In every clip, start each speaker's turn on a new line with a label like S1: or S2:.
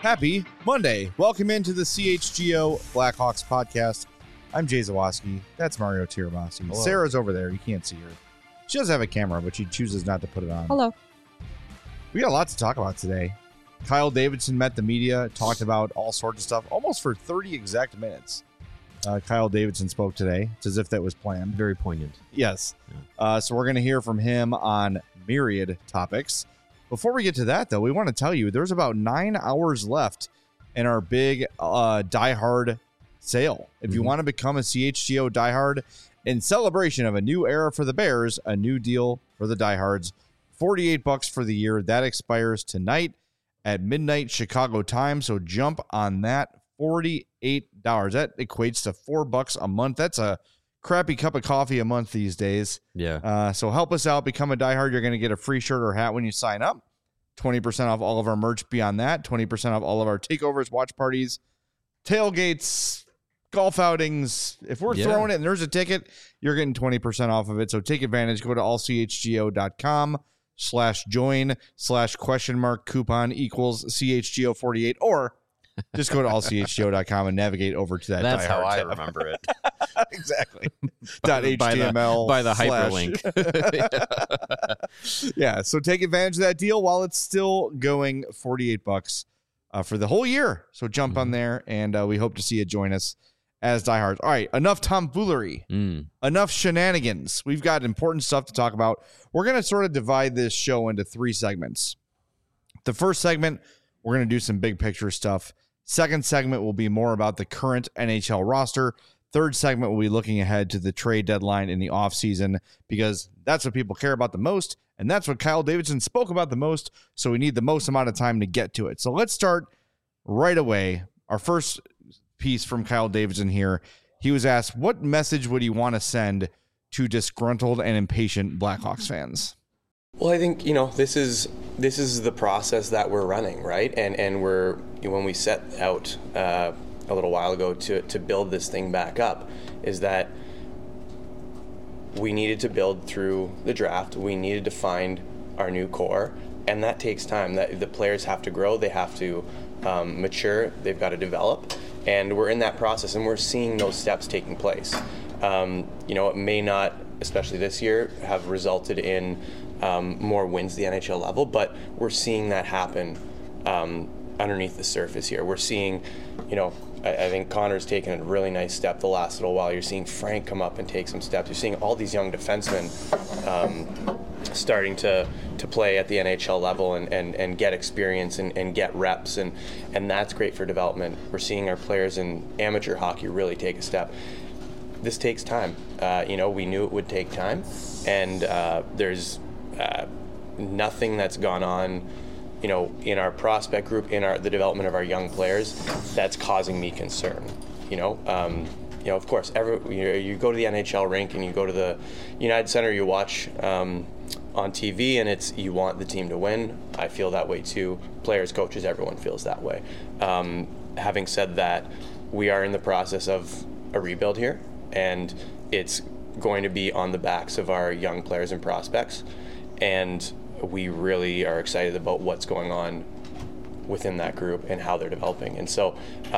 S1: Happy Monday. Welcome into the CHGO Blackhawks podcast. I'm Jay Zawaski. That's Mario Tirabassi.
S2: Hello.
S1: Sarah's over there. You can't see her. She does have a camera, but she chooses not to put it on.
S3: Hello.
S1: We got a lot to talk about today. Kyle Davidson met the media, talked about all sorts of stuff, almost for 30 exact minutes. Kyle Davidson spoke today. It's as if that was planned.
S2: Very poignant.
S1: Yes. So we're going to hear from him on myriad topics. Before we get to that, though, we want to tell you there's about 9 hours left in our big diehard sale. If you want to become a CHGO diehard in celebration of a new era for the Bears, a new deal for the diehards, $48 for the year. That expires tonight at midnight Chicago time. So jump on that. $48. That equates to $4 a month. That's a crappy cup of coffee a month these days.
S2: Yeah.
S1: So help us out. Become a diehard. You're going to get a free shirt or hat when you sign up. 20% off all of our merch beyond that. 20% off all of our takeovers, watch parties, tailgates, golf outings. If we're throwing it and there's a ticket, you're getting 20% off of it. So take advantage. Go to allchgo.com/join/?coupon equals CHGO48 or just go to allchgo.com and navigate over to that.
S2: That's how I
S1: tab.
S2: remember it.
S1: Exactly. .html
S2: by the hyperlink.
S1: Yeah. So take advantage of that deal while it's still going. $48 for the whole year. So jump on there, and we hope to see you join us as diehards. All right. Enough tomfoolery. Enough shenanigans. We've got important stuff to talk about. We're going to sort of divide this show into 3 segments. The first segment, we're going to do some big picture stuff. Second segment will be more about the current NHL roster. Third segment will be looking ahead to the trade deadline in the offseason because that's what people care about the most, and that's what Kyle Davidson spoke about the most, so we need the most amount of time to get to it. So let's start right away. Our first piece from Kyle Davidson here, he was asked, what message would he want to send to disgruntled and impatient Blackhawks fans?
S4: Well, I think, this is the process that we're running, right? And we're, when we set out a little while ago to build this thing back up, is that we needed to build through the draft. We needed to find our new core, and that takes time. That the players have to grow, they have to mature, they've got to develop, and we're in that process, and we're seeing those steps taking place. It may not, especially this year, have resulted in more wins at the NHL level, but we're seeing that happen underneath the surface here. We're seeing, I think Connor's taken a really nice step the last little while. You're seeing Frank come up and take some steps. You're seeing all these young defensemen starting to play at the NHL level and get experience and get reps, and that's great for development. We're seeing our players in amateur hockey really take a step. This takes time. We knew it would take time, and there's nothing that's gone on, in our prospect group, in the development of our young players, that's causing me concern. Of course, you go to the NHL rink and you go to the United Center, you watch on TV, and you want the team to win. I feel that way too. Players, coaches, everyone feels that way. Having said that, we are in the process of a rebuild here, and it's going to be on the backs of our young players and prospects, and we really are excited about what's going on within that group and how they're developing. And so,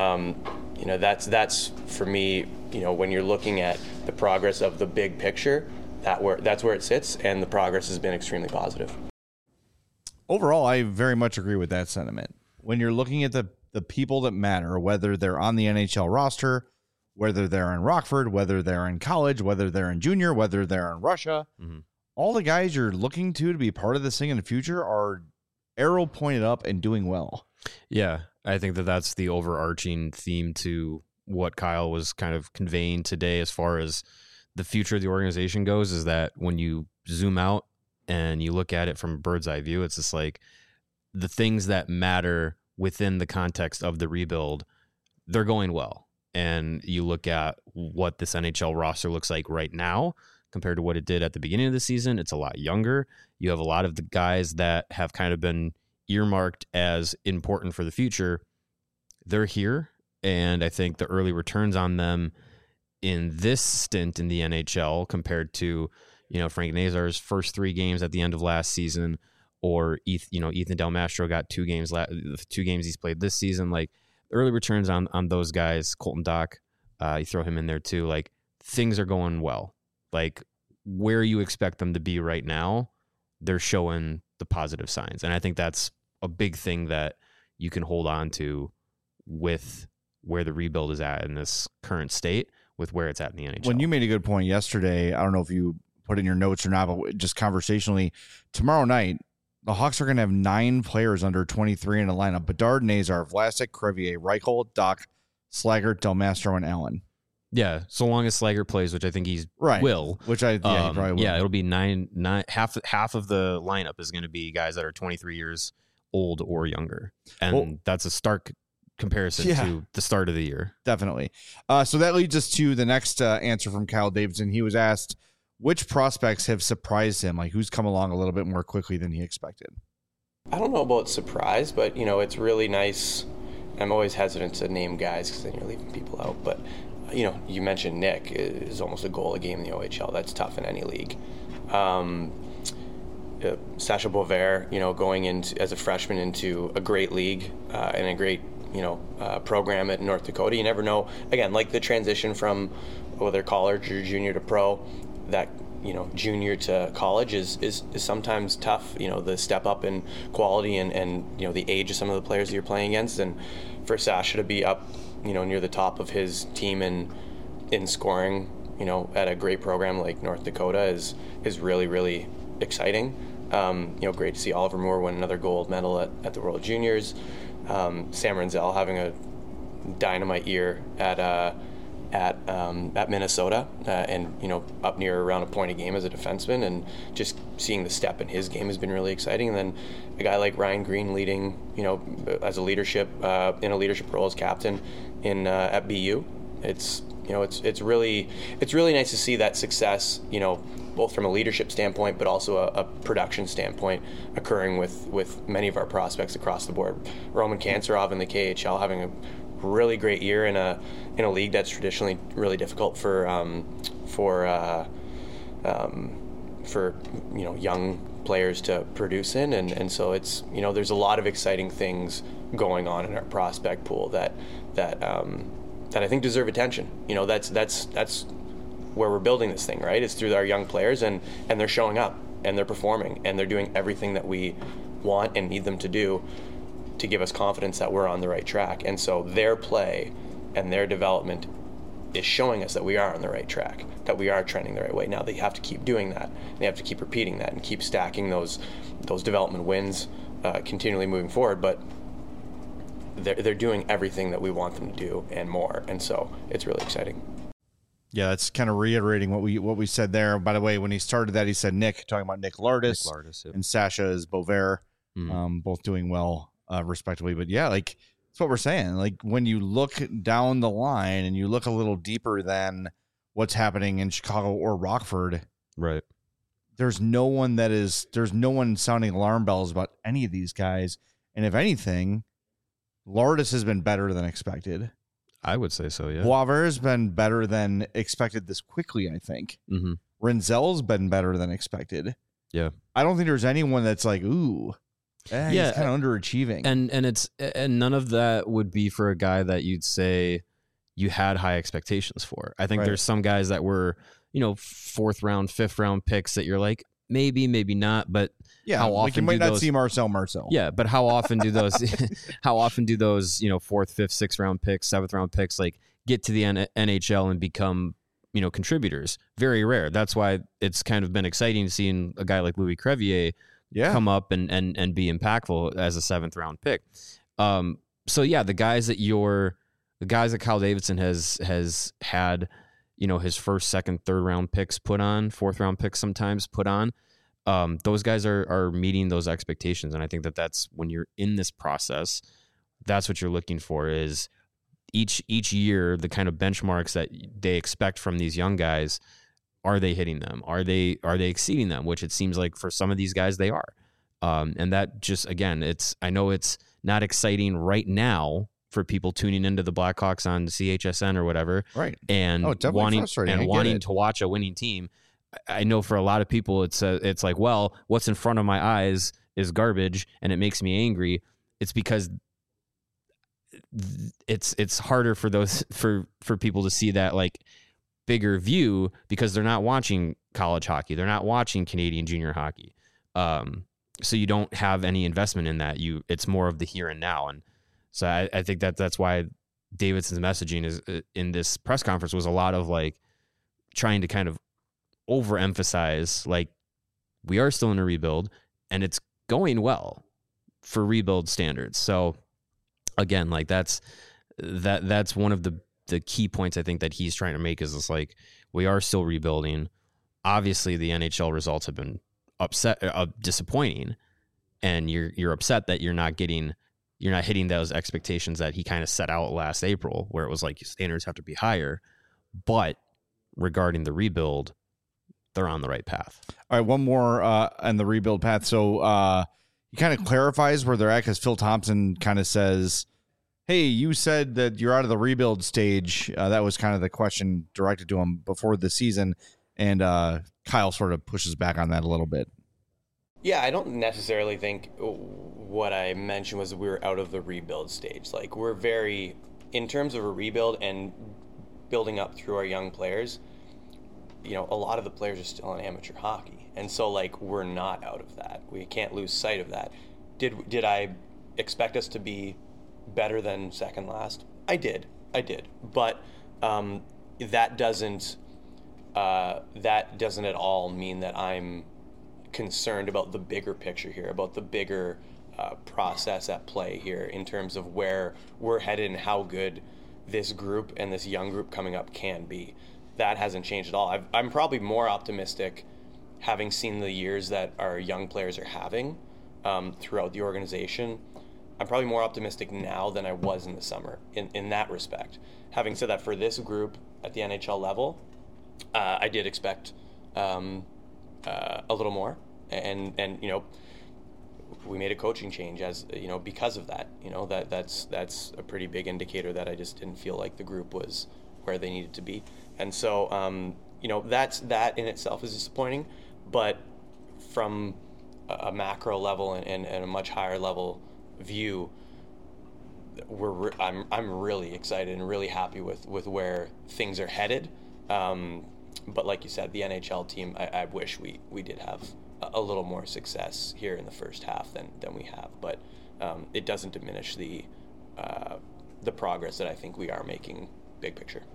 S4: that's for me, when you're looking at the progress of the big picture, that's where it sits, and the progress has been extremely positive.
S1: Overall, I very much agree with that sentiment. When you're looking at the people that matter, whether they're on the NHL roster, whether they're in Rockford, whether they're in college, whether they're in junior, whether they're in Russia, all the guys you're looking to be part of this thing in the future are arrow pointed up and doing well.
S2: Yeah, I think that's the overarching theme to what Kyle was kind of conveying today as far as the future of the organization goes, is that when you zoom out and you look at it from a bird's eye view, it's just like the things that matter within the context of the rebuild, they're going well. And you look at what this NHL roster looks like right now compared to what it did at the beginning of the season. It's a lot younger. You have a lot of the guys that have kind of been earmarked as important for the future. They're here, and I think the early returns on them in this stint in the NHL compared to, Frank Nazar's first 3 games at the end of last season, or Ethan Del Mastro got 2 games, 2 games he's played this season. Like early returns on those guys, Colton Dock, you throw him in there too. Like things are going well. Like where you expect them to be right now, they're showing the positive signs. And I think that's a big thing that you can hold on to with where the rebuild is at in this current state with where it's at in the NHL.
S1: When you made a good point yesterday, I don't know if you put in your notes or not, but just conversationally, tomorrow night, the Hawks are going to have 9 players under 23 in the lineup. Bedard, Nazar, Vlasic, Crevier, Reichel, Doc, Slaggert, Del Mastro, and Allen.
S2: Yeah, so long as Slaggert plays, which I think he will.
S1: Which he probably will.
S2: Yeah, it'll be 9. Half of the lineup is going to be guys that are 23 years old or younger, and that's a stark comparison to the start of the year.
S1: Definitely. So that leads us to the next answer from Kyle Davidson. He was asked, which prospects have surprised him? Like who's come along a little bit more quickly than he expected?
S4: I don't know about surprise, but it's really nice. I'm always hesitant to name guys because then you're leaving people out. But you mentioned Nick is almost a goal a game in the OHL. That's tough in any league. Sasha Bovair, going into as a freshman into a great league and a great program at North Dakota. You never know. Again, like the transition from whether college or junior to pro, that junior to college is sometimes tough. The step up in quality and the age of some of the players that you're playing against, and for Sasha to be up near the top of his team in scoring at a great program like North Dakota is really, really exciting. Great to see Oliver Moore win another gold medal at the World Juniors. Sam Renzel having a dynamite year at Minnesota, and up near around a point a game as a defenseman, and just seeing the step in his game has been really exciting. And then a guy like Ryan Green leading, as a leadership in a leadership role as captain at BU. It's really nice to see that success, both from a leadership standpoint, but also a production standpoint occurring with many of our prospects across the board. Roman Kanserov in the KHL having a really great year in a league that's traditionally really difficult for young players to produce in, and so it's there's a lot of exciting things going on in our prospect pool that I think deserve attention. That's where we're building this thing, right? It's through our young players, and they're showing up and they're performing and they're doing everything that we want and need them to do to give us confidence that we're on the right track. And so their play and their development is showing us that we are on the right track, that we are trending the right way. Now they have to keep doing that. They have to keep repeating that and keep stacking those development wins continually moving forward. But they're doing everything that we want them to do and more. And so it's really exciting.
S1: Yeah, that's kind of reiterating what we said there. By the way, when he started that, he said talking about Nick Lardis
S2: yep.
S1: and Sasha is Bovair, both doing well respectively. But yeah, like that's what we're saying. Like when you look down the line and you look a little deeper than what's happening in Chicago or Rockford,
S2: right?
S1: There's no one sounding alarm bells about any of these guys. And if anything, Lardis has been better than expected.
S2: I would say so, yeah.
S1: Bovair has been better than expected this quickly, I think.
S2: Mm-hmm.
S1: Renzel's been better than expected.
S2: Yeah.
S1: I don't think there's anyone that's like, ooh, he's kind of underachieving.
S2: And none of that would be for a guy that you'd say you had high expectations for. I think there's some guys that were, 4th round, 5th round picks that you're like, maybe not, but how often
S1: you might not see Marcel.
S2: Yeah, but how often do those 4th, 5th, 6th round picks, 7th round picks like get to the NHL and become, contributors? Very rare. That's why it's kind of been exciting seeing a guy like Louis Crevier come up and be impactful as a 7th round pick. So yeah, the guys that Kyle Davidson has had, his 1st, 2nd, 3rd round picks put on, 4th round picks sometimes put on. Those guys are meeting those expectations. And I think that's when you're in this process, that's what you're looking for is each year, the kind of benchmarks that they expect from these young guys, are they hitting them? Are they exceeding them? Which it seems like for some of these guys, they are. And that just, again, I know it's not exciting right now for people tuning into the Blackhawks on CHSN or whatever.
S1: Right.
S2: And wanting to watch a winning team. I know for a lot of people, it's like, well, what's in front of my eyes is garbage and it makes me angry, it's because it's harder for those for people to see that like bigger view, because they're not watching college hockey, they're not watching Canadian junior hockey, so you don't have any investment in that. It's more of the here and now. And so I think that's why Davidson's messaging is in this press conference was a lot of like trying to kind of overemphasize like we are still in a rebuild and it's going well for rebuild standards. So again, like that's one of the key points I think that he's trying to make is this, like, we are still rebuilding. Obviously the NHL results have been disappointing, and you're upset that you're not hitting those expectations that he kind of set out last April, where it was like standards have to be higher. But regarding the rebuild, they're on the right path.
S1: All right, one more on the rebuild path. So he kind of clarifies where they're at, because Phil Thompson kind of says, hey, you said that you're out of the rebuild stage. That was kind of the question directed to him before the season. And Kyle sort of pushes back on that a little bit.
S4: Yeah, I don't necessarily think what I mentioned was we were out of the rebuild stage. Like, we're very, in terms of a rebuild and building up through our young players, you know, a lot of the players are still in amateur hockey. And so, like, we're not out of that. We can't lose sight of that. Did I expect us to be better than second last? I did. But that doesn't at all mean that I'm concerned about the bigger picture here, about the bigger process at play here in terms of where we're headed and how good this group and this young group coming up can be. That hasn't changed at all. I'm probably more optimistic, having seen the years that our young players are having throughout the organization. I'm probably more optimistic now than I was in the summer in that respect. Having said that, for this group at the NHL level, I did expect a little more, and you know, we made a coaching change as you know because of that. You know, that's a pretty big indicator that I just didn't feel like the group was where they needed to be, and so you know, that in itself is disappointing. But from a macro level and a much higher level view, I'm really excited and really happy with where things are headed. But like you said, the NHL team, I wish we did have a little more success here in the first half than we have. But it doesn't diminish the progress that I think we are making big picture.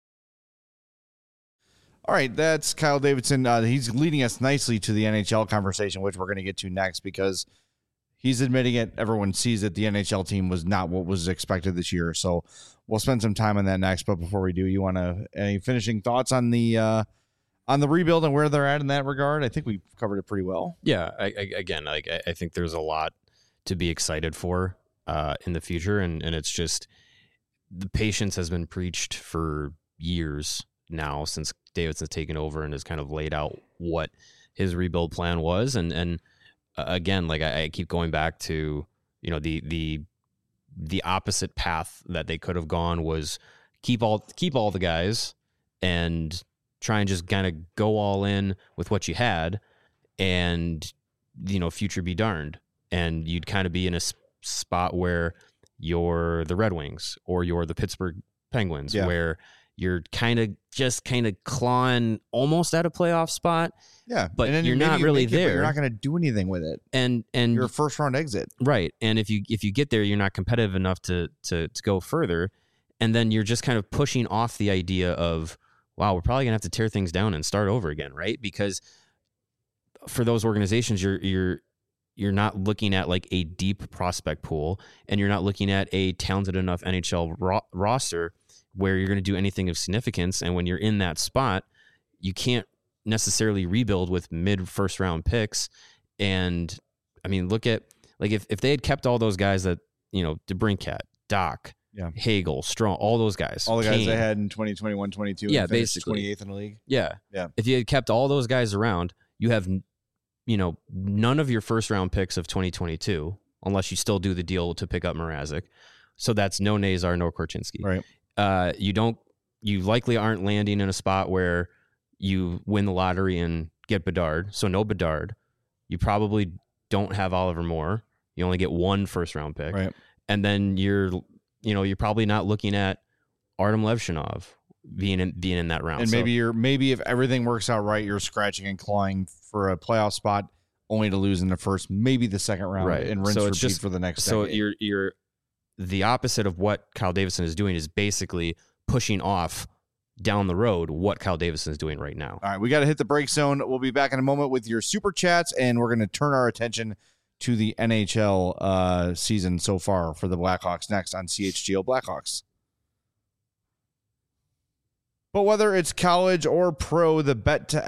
S1: All right, that's Kyle Davidson. He's leading us nicely to the NHL conversation, which we're going to get to next, because he's admitting it. Everyone sees that the NHL team was not what was expected this year. So we'll spend some time on that next. But before we do, you want any finishing thoughts on the rebuild and where they're at in that regard? I think we covered it pretty well.
S2: Yeah. I think there's a lot to be excited for in the future. And it's just the patience has been preached for years now since Davidson's taken over and has kind of laid out what his rebuild plan was. And again, like I keep going back to, you know, the opposite path that they could have gone was keep all the guys and try and just kind of go all in with what you had, and you know, future be darned, and you'd kind of be in a spot where you're the Red Wings or you're the Pittsburgh Penguins, where you're kind of clawing almost at a playoff spot.
S1: Yeah,
S2: but you're not really there.
S1: You're not going to do anything with it,
S2: and
S1: you're a first round exit,
S2: right? And if you get there, you're not competitive enough to go further, and then you're just kind of pushing off the idea of, wow, we're probably gonna have to tear things down and start over again, right? Because for those organizations, you're not looking at like a deep prospect pool, and you're not looking at a talented enough NHL roster where you're going to do anything of significance. And when you're in that spot, you can't necessarily rebuild with mid first round picks. And I mean, look at like if they had kept all those guys that, you know, DeBrincat, Doc, Hagel, Strong, all those guys,
S1: all the guys they had in 2021, 22,
S2: yeah,
S1: and
S2: basically
S1: 28th in the league.
S2: Yeah. If you had kept all those guys around, you have, you know, none of your first round picks of 2022, unless you still do the deal to pick up Mrazek. So that's no Nazar, no Korchinski.
S1: Right.
S2: You likely aren't landing in a spot where you win the lottery and get Bedard. So no Bedard. You probably don't have Oliver Moore. You only get 1 first-round pick.
S1: Right.
S2: And then you're probably not looking at Artem Levshinov being in that round.
S1: And maybe if everything works out right, you're scratching and clawing for a playoff spot, only to lose in the first, maybe the second round,
S2: right.
S1: and rinse repeat for the next.
S2: So
S1: decade.
S2: you're the opposite of what Kyle Davidson is doing is basically pushing off down the road what Kyle Davidson is doing right now.
S1: All right, we got to hit the break zone. We'll be back in a moment with your super chats, and we're going to turn our attention to the NHL season so far for the Blackhawks next on CHGO Blackhawks. But whether it's college or pro, the app to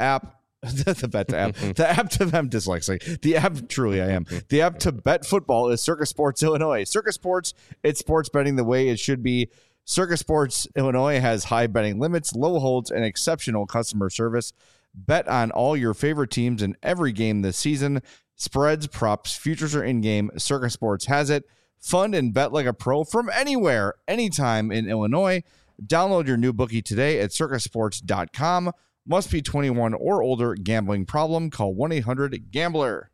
S1: bet football is Circus Sports Illinois. Circus Sports, it's sports betting the way it should be. Circus Sports Illinois has high betting limits, low holds, and exceptional customer service. Bet on all your favorite teams in every game this season. Spreads, props, futures are in-game. Circus Sports has it. Fund and bet like a pro from anywhere, anytime in Illinois. Download your new bookie today at circusports.com. Must be 21 or older. Gambling problem? Call 1-800-GAMBLER.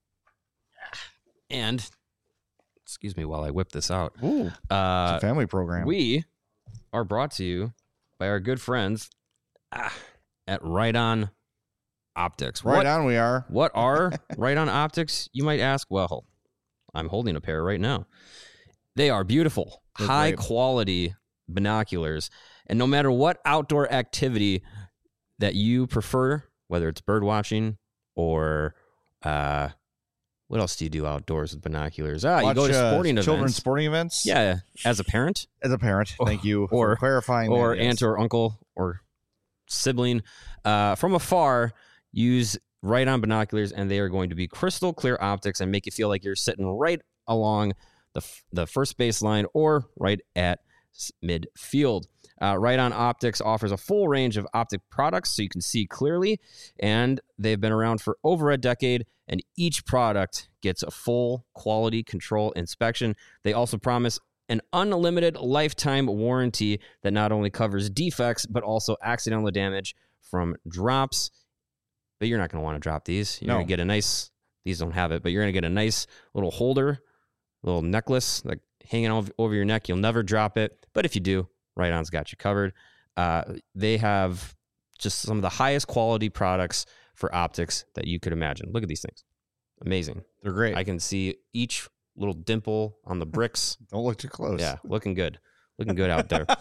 S2: And, excuse me while I whip this out.
S1: Ooh, it's a family program.
S2: We are brought to you by our good friends at Right On Optics.
S1: Right on we are.
S2: What are Right On Optics, you might ask? Well, I'm holding a pair right now. They are beautiful, high-quality binoculars. And no matter what outdoor activity that you prefer, whether it's bird watching or what else do you do outdoors with binoculars? You go to sporting events.
S1: Children's sporting events?
S2: Yeah, as a parent.
S1: As a parent. Thank you for clarifying
S2: or
S1: that. Yes.
S2: Aunt or uncle or sibling. From afar, use Right On binoculars, and they are going to be crystal clear optics and make you feel like you're sitting right along the first baseline or right at midfield. Right On Optics offers a full range of optic products so you can see clearly, and they've been around for over a decade, and each product gets a full quality control inspection. They also promise an unlimited lifetime warranty that not only covers defects, but also accidental damage from drops. But you're not going to want to drop these. You're going to get a nice, these don't have it, but you're going to get a nice little holder, little necklace, like hanging over your neck. You'll never drop it. But if you do, Right On's got you covered. They have just some of the highest quality products for optics that you could imagine. Look at these things. Amazing.
S1: They're great.
S2: I can see each little dimple on the bricks.
S1: Don't look too close.
S2: Yeah, looking good. Looking good out there.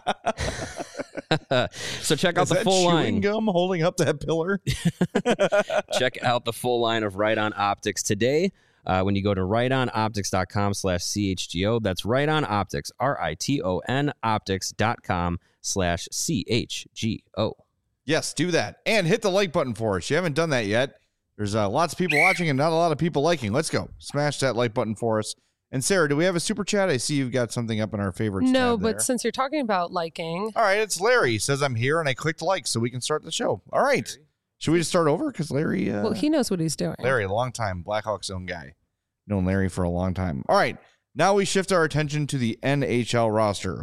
S2: So check out the full
S1: chewing
S2: line.
S1: Gum holding up that pillar.
S2: Check out the full line of Right On Optics today. When you go to rightonoptics.com/CHGO, that's Right On Optics, RITON optics.com/CHGO.
S1: Yes, do that. And hit the like button for us. You haven't done that yet. There's lots of people watching and not a lot of people liking. Let's go. Smash that like button for us. And Sarah, do we have a super chat? I see you've got something up in our favorites.
S3: No,
S1: tab
S3: but
S1: there.
S3: since you're talking about liking.
S1: All right, it's Larry. He says I'm here and I clicked like so we can start the show. All right. Should we just start over? Because Larry...
S3: well, he knows what he's doing.
S1: Larry, long time Blackhawks own guy. Known Larry for a long time. All right. Now we shift our attention to the NHL roster.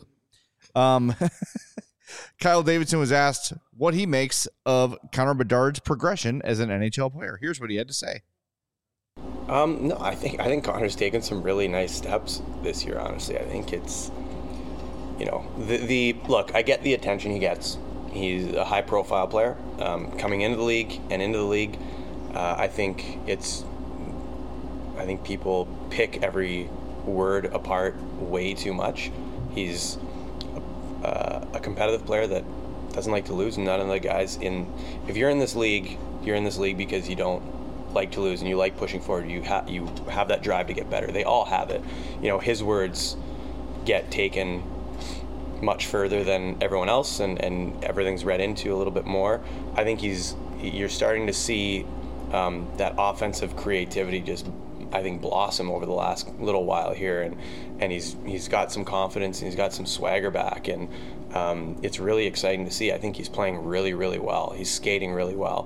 S1: Kyle Davidson was asked what he makes of Connor Bedard's progression as an NHL player. Here's what he had to say.
S4: No, I think Connor's taken some really nice steps this year, honestly. I think it's, the look, I get the attention he gets. He's a high-profile player coming into the league and into the league. I think people pick every word apart way too much. He's a competitive player that doesn't like to lose. None of the guys if you're in this league, you're in this league because you don't like to lose and you like pushing forward. You have that drive to get better. They all have it. His words get taken much further than everyone else, and everything's read into a little bit more. I think you're starting to see that offensive creativity just, I think, blossom over the last little while here, and he's got some confidence and he's got some swagger back, and it's really exciting to see. I think he's playing really, really well. He's skating really well.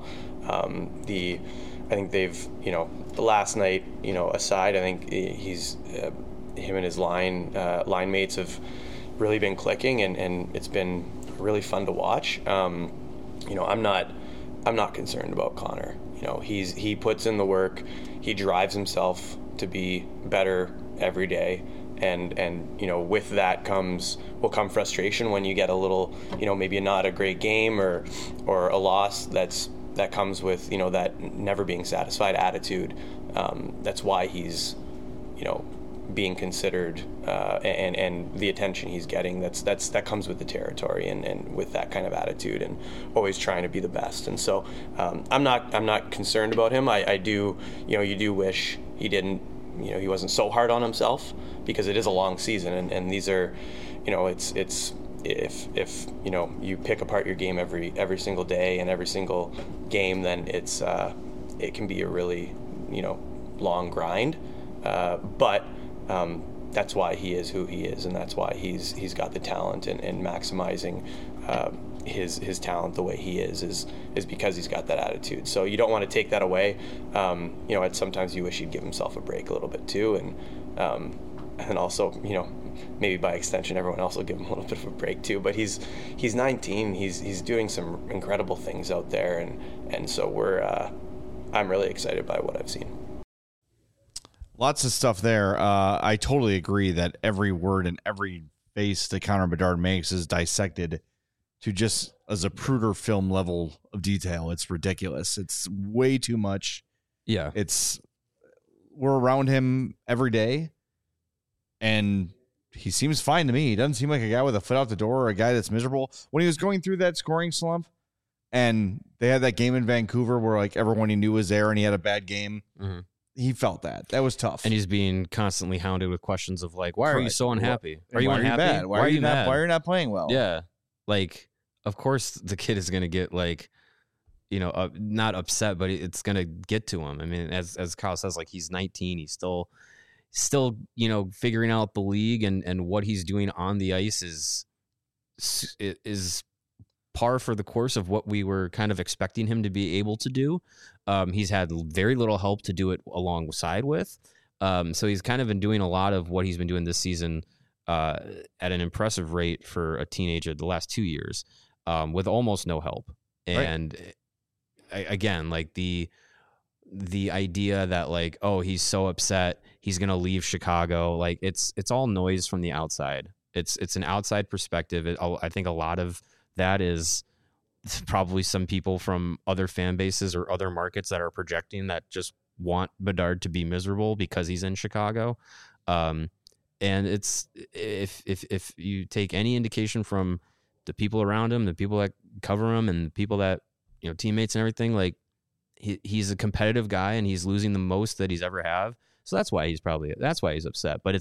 S4: I think they've, the last night, aside, I think he's him and his line mates have really been clicking, and it's been really fun to watch. I'm not concerned about Connor. he puts in the work, he drives himself to be better every day, and with that will come frustration when you get a little, maybe not a great game or a loss that comes with that never being satisfied attitude. That's why he's being considered, and the attention he's getting, that comes with the territory and with that kind of attitude and always trying to be the best. And so I'm not concerned about him. I do, you do wish he didn't, he wasn't so hard on himself, because it is a long season, and these are, it's if you pick apart your game every single day and every single game, then it can be a really long grind, but that's why he is who he is, and that's why he's got the talent, and maximizing his talent the way he is because he's got that attitude. So you don't want to take that away. Sometimes you wish he'd give himself a break a little bit too, and also maybe by extension everyone else will give him a little bit of a break too. But he's 19. He's doing some incredible things out there, and so I'm really excited by what I've seen.
S1: Lots of stuff there. I totally agree that every word and every face that Connor Bedard makes is dissected to just a Zapruder film level of detail. It's ridiculous. It's way too much.
S2: Yeah.
S1: We're around him every day, and he seems fine to me. He doesn't seem like a guy with a foot out the door or a guy that's miserable. When he was going through that scoring slump, and they had that game in Vancouver where like everyone he knew was there and he had a bad game, he felt that. That was tough.
S2: And he's being constantly hounded with questions of like, why are you so unhappy? Are you unhappy?
S1: Bad? Why are you mad? Why are you not playing well?
S2: Yeah. Like, of course the kid is going to get like, not upset, but it's going to get to him. I mean, as Kyle says, like, he's 19. He's still, figuring out the league, and what he's doing on the ice is par for the course of what we were kind of expecting him to be able to do. He's had very little help to do it alongside with. So he's kind of been doing a lot of what he's been doing this season at an impressive rate for a teenager the last 2 years, with almost no help. And again, like the idea that like, oh, he's so upset, he's going to leave Chicago. Like it's all noise from the outside. It's an outside perspective. I think a lot of that is probably some people from other fan bases or other markets that are projecting that just want Bedard to be miserable because he's in Chicago. And it's, if you take any indication from the people around him, the people that cover him, and the people that, teammates and everything, like he's a competitive guy and he's losing the most that he's ever have. So that's why he's upset, but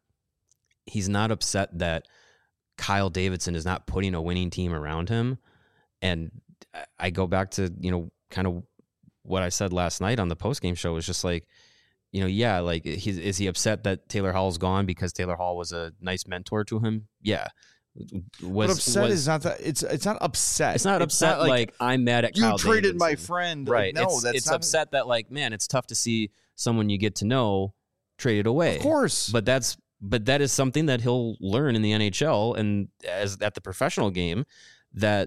S2: he's not upset that Kyle Davidson is not putting a winning team around him. And I go back to, kind of what I said last night on the postgame show was just like, like, is he upset that Taylor Hall's gone because Taylor Hall was a nice mentor to him? Yeah.
S1: But upset is not that. It's not upset.
S2: It's not upset like I'm mad at Kyle
S1: you traded
S2: Davidson.
S1: my friend.
S2: Right.
S1: Like, no,
S2: it's upset that like, man, it's tough to see someone you get to know traded away.
S1: Of course.
S2: But that is something that he'll learn in the NHL and as at the professional game, that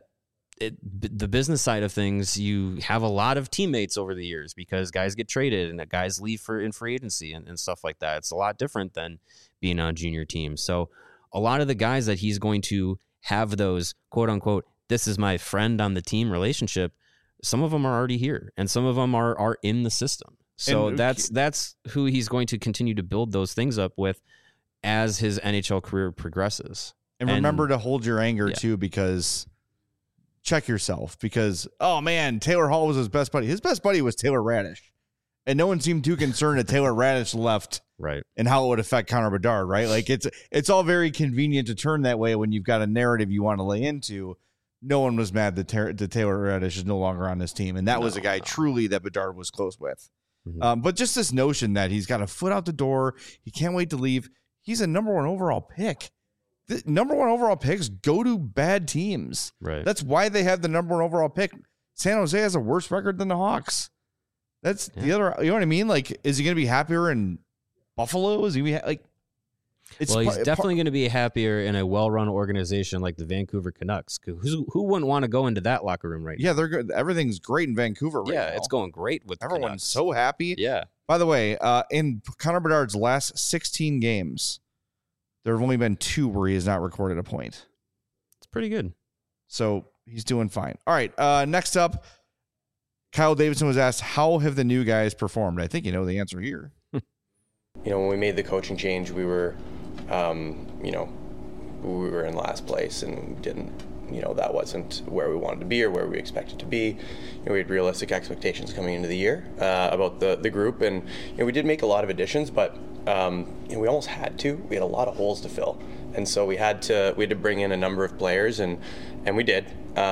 S2: the business side of things, you have a lot of teammates over the years because guys get traded and guys leave in free agency and stuff like that. It's a lot different than being on junior teams. So a lot of the guys that he's going to have those quote unquote, this is my friend on the team relationship, some of them are already here and some of them are in the system. So that's who he's going to continue to build those things up with as his NHL career progresses.
S1: And remember to hold your anger too, because check yourself, because, oh man, Taylor Hall was his best buddy. His best buddy was Taylor Radish. And no one seemed too concerned that Taylor Radish left,
S2: right? And
S1: how it would affect Connor Bedard, right? Like it's all very convenient to turn that way when you've got a narrative you want to lay into. No one was mad that Taylor Radish is no longer on this team, and that was a guy truly that Bedard was close with. Mm-hmm. But just this notion that he's got a foot out the door, he can't wait to leave. He's a number one overall pick. The number one overall picks go to bad teams.
S2: Right.
S1: That's why they have the number one overall pick. San Jose has a worse record than the Hawks. That's the other, you know what I mean? Like, is he going to be happier in Buffalo? Is he like,
S2: Well, he's definitely going to be happier in a well-run organization like the Vancouver Canucks. Who wouldn't want to go into that locker room right now?
S1: Yeah, they're good. Everything's great in Vancouver right now.
S2: Yeah, it's going great with
S1: everyone's
S2: Canucks.
S1: so happy.
S2: Yeah.
S1: By the way, in Connor Bedard's last 16 games, there have only been 2 where he has not recorded a point.
S2: It's pretty good.
S1: So he's doing fine. All right, next up, Kyle Davidson was asked, how have the new guys performed? I think you know the answer here.
S4: When we made the coaching change, we were, we were in last place and didn't, that wasn't where we wanted to be or where we expected to be. We had realistic expectations coming into the year about the group, and we did make a lot of additions, but we almost had to. We had a lot of holes to fill, and so we had to bring in a number of players, and we did.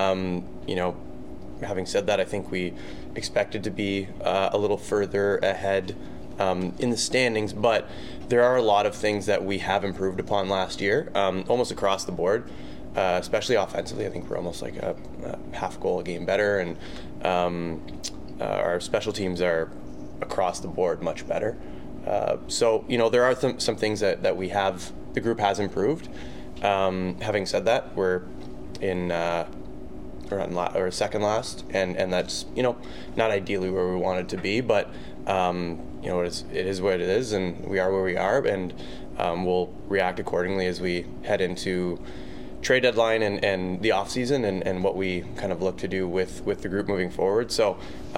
S4: Having said that, I think we expected to be a little further ahead in the standings, but there are a lot of things that we have improved upon last year, almost across the board, especially offensively. I think we're almost like a half goal a game better, and our special teams are across the board much better. So there are some things that the group has improved. Having said that, we're in or second last, and that's not ideally where we wanted to be, but it is what it is, and we are where we are, and we'll react accordingly as we head into trade deadline and the off season and what we kind of look to do with the group moving forward. So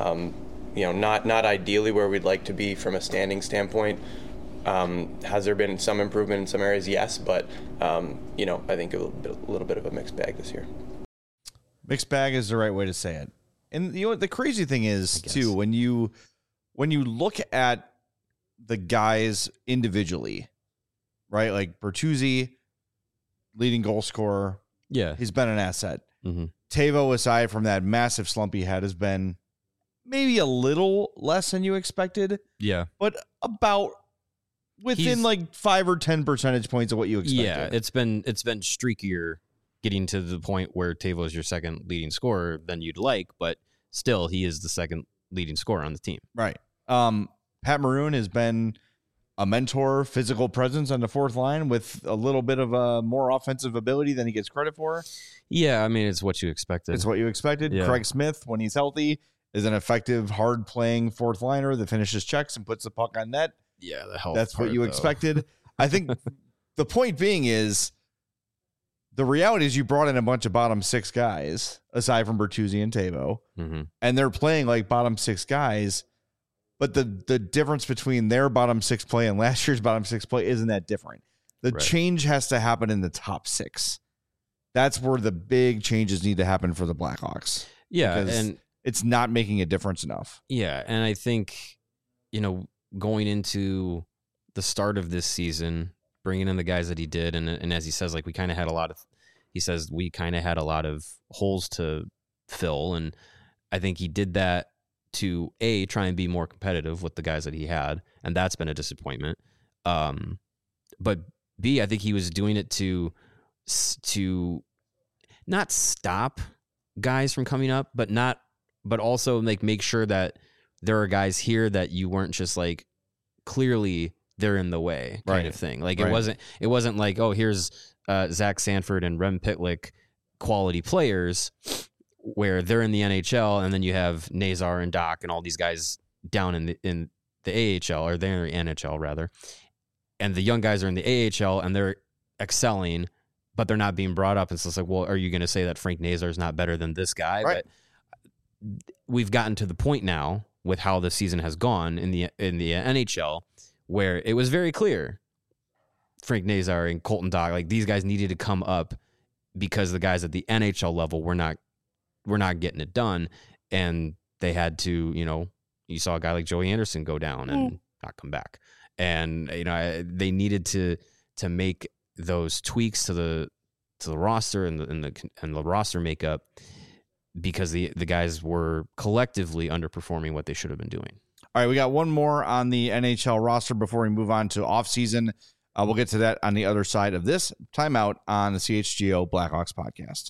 S4: not ideally where we'd like to be from a standing standpoint. Has there been some improvement in some areas? Yes, but I think a little bit of a mixed bag this year.
S1: Mixed bag is the right way to say it. And the crazy thing is too, when you look at the guys individually, right? Like Bertuzzi, leading goal scorer.
S2: Yeah.
S1: He's been an asset.
S2: Mm-hmm.
S1: Tavo, aside from that massive slump he had, has been maybe a little less than you expected.
S2: Yeah.
S1: But about within like 5 or 10 percentage points of what you expected.
S2: Yeah, it's been streakier getting to the point where Tavo is your second leading scorer than you'd like, but still he is the second leading scorer on the team.
S1: Right. Pat Maroon has been a mentor, physical presence on the fourth line with a little bit of a more offensive ability than he gets credit for.
S2: Yeah, I mean, it's what you expected.
S1: It's what you expected.
S2: Yeah.
S1: Craig Smith, when he's healthy, is an effective, hard-playing fourth liner that finishes checks and puts the puck on net.
S2: Yeah, the health.
S1: That's what you expected. I think the point being is the reality is you brought in a bunch of bottom 6 guys, aside from Bertuzzi and Tavo, and they're playing like bottom 6 guys. But the difference between their bottom 6 play and last year's bottom 6 play isn't that different. The change has to happen in the top 6. That's where the big changes need to happen for the Blackhawks.
S2: Yeah, and
S1: it's not making a difference enough.
S2: Yeah, and I think, going into the start of this season, bringing in the guys that he did, and as he says, like we kind of had a lot of holes to fill, and I think he did that to A, try and be more competitive with the guys that he had, and that's been a disappointment. But B, I think he was doing it to not stop guys from coming up, but also make sure that there are guys here that you weren't just like clearly they're in the way kind of thing. Like it wasn't like, oh, here's Zach Sanford and Rem Pitlick quality players where they're in the NHL, and then you have Nazar and Doc and all these guys down in the AHL, or they're in the NHL rather, and the young guys are in the AHL and they're excelling, but they're not being brought up. And so it's like, well, are you going to say that Frank Nazar is not better than this guy?
S1: Right.
S2: But we've gotten to the point now with how the season has gone in the NHL, where it was very clear Frank Nazar and Colton Doc, like these guys needed to come up because the guys at the NHL level were not getting it done, and they had to, you saw a guy like Joey Anderson go down and not come back, and they needed to make those tweaks to the roster and the roster makeup because the guys were collectively underperforming what they should have been doing.
S1: All right, we got one more on the NHL roster before we move on to offseason. We'll get to that on the other side of this timeout on the CHGO Blackhawks podcast.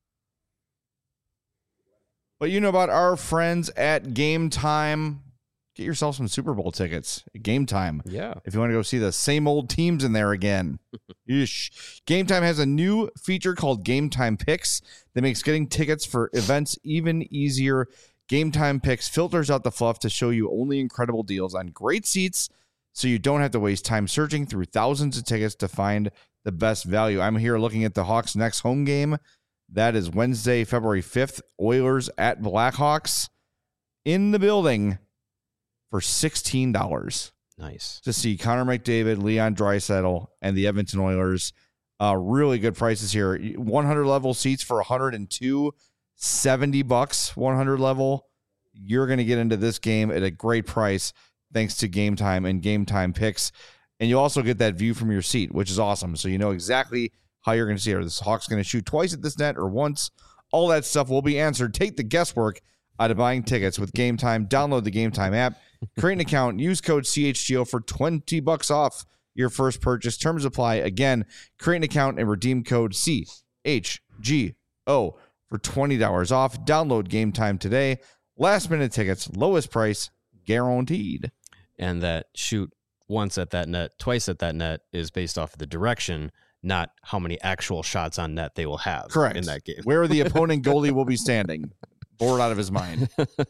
S1: But you know about our friends at Game Time. get yourself some Super Bowl tickets. Game Time.
S2: Yeah.
S1: If you want to go see the same old teams in there again. Game Time has a new feature called Game Time Picks that makes getting tickets for events even easier. Game Time Picks filters out the fluff to show you only incredible deals on great seats so you don't have to waste time searching through thousands of tickets to find the best value. I'm here looking at the Hawks' next home game. That is Wednesday, February 5th. Oilers at Blackhawks in the building for $16.
S2: Nice.
S1: To see Connor McDavid, Leon Draisaitl, and the Edmonton Oilers. Really good prices here. 100 level seats for $102, $70 100 level. You're going to get into this game at a great price thanks to Game Time and Game Time Picks. And you also get that view from your seat, which is awesome. So you know exactly how you're going to see it. Are the Hawks going to shoot twice at this net or once? All that stuff will be answered. Take the guesswork out of buying tickets with Game Time. Download the Game Time app. Create an account. Use code CHGO for $20 off your first purchase. Terms apply. Again, create an account and redeem code CHGO for $20 off. Download Game Time today. Last minute tickets, lowest price guaranteed.
S2: And that shoot once at that net, twice at that net is based off of the direction, not how many actual shots on net they will have.
S1: Correct.
S2: In that game.
S1: Where the opponent goalie will be standing. Bored out of his mind.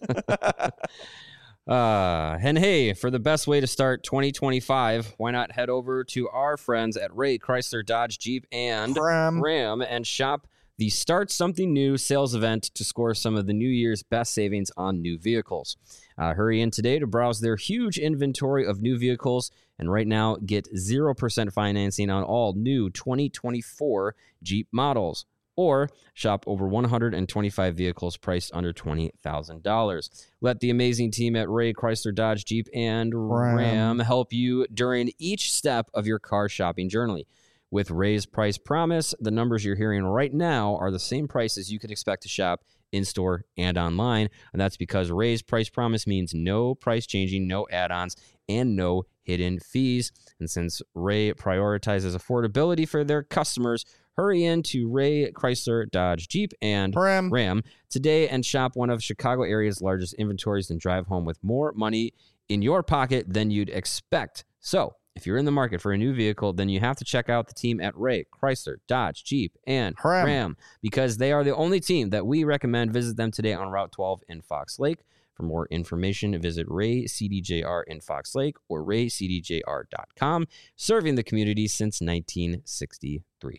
S2: And hey, for the best way to start 2025, why not head over to our friends at Ray Chrysler Dodge Jeep and Ram and shop the Start Something New sales event to score some of the new year's best savings on new vehicles. Hurry in today to browse their huge inventory of new vehicles, and right now get 0% financing on all new 2024 Jeep models. Or shop over 125 vehicles priced under $20,000. Let the amazing team at Ray Chrysler Dodge Jeep and Ram help you during each step of your car shopping journey. With Ray's Price Promise, the numbers you're hearing right now are the same prices you could expect to shop in-store and online. And that's because Ray's Price Promise means no price changing, no add-ons, and no hidden fees. And since Ray prioritizes affordability for their customers, hurry in to Ray Chrysler Dodge Jeep and Ram today and shop one of Chicago area's largest inventories and drive home with more money in your pocket than you'd expect. So if you're in the market for a new vehicle, then you have to check out the team at Ray Chrysler Dodge Jeep and Ram because they are the only team that we recommend. Visit them today on Route 12 in Fox Lake. For more information, visit Ray CDJR in Fox Lake or raycdjr.com, serving the community since 1963.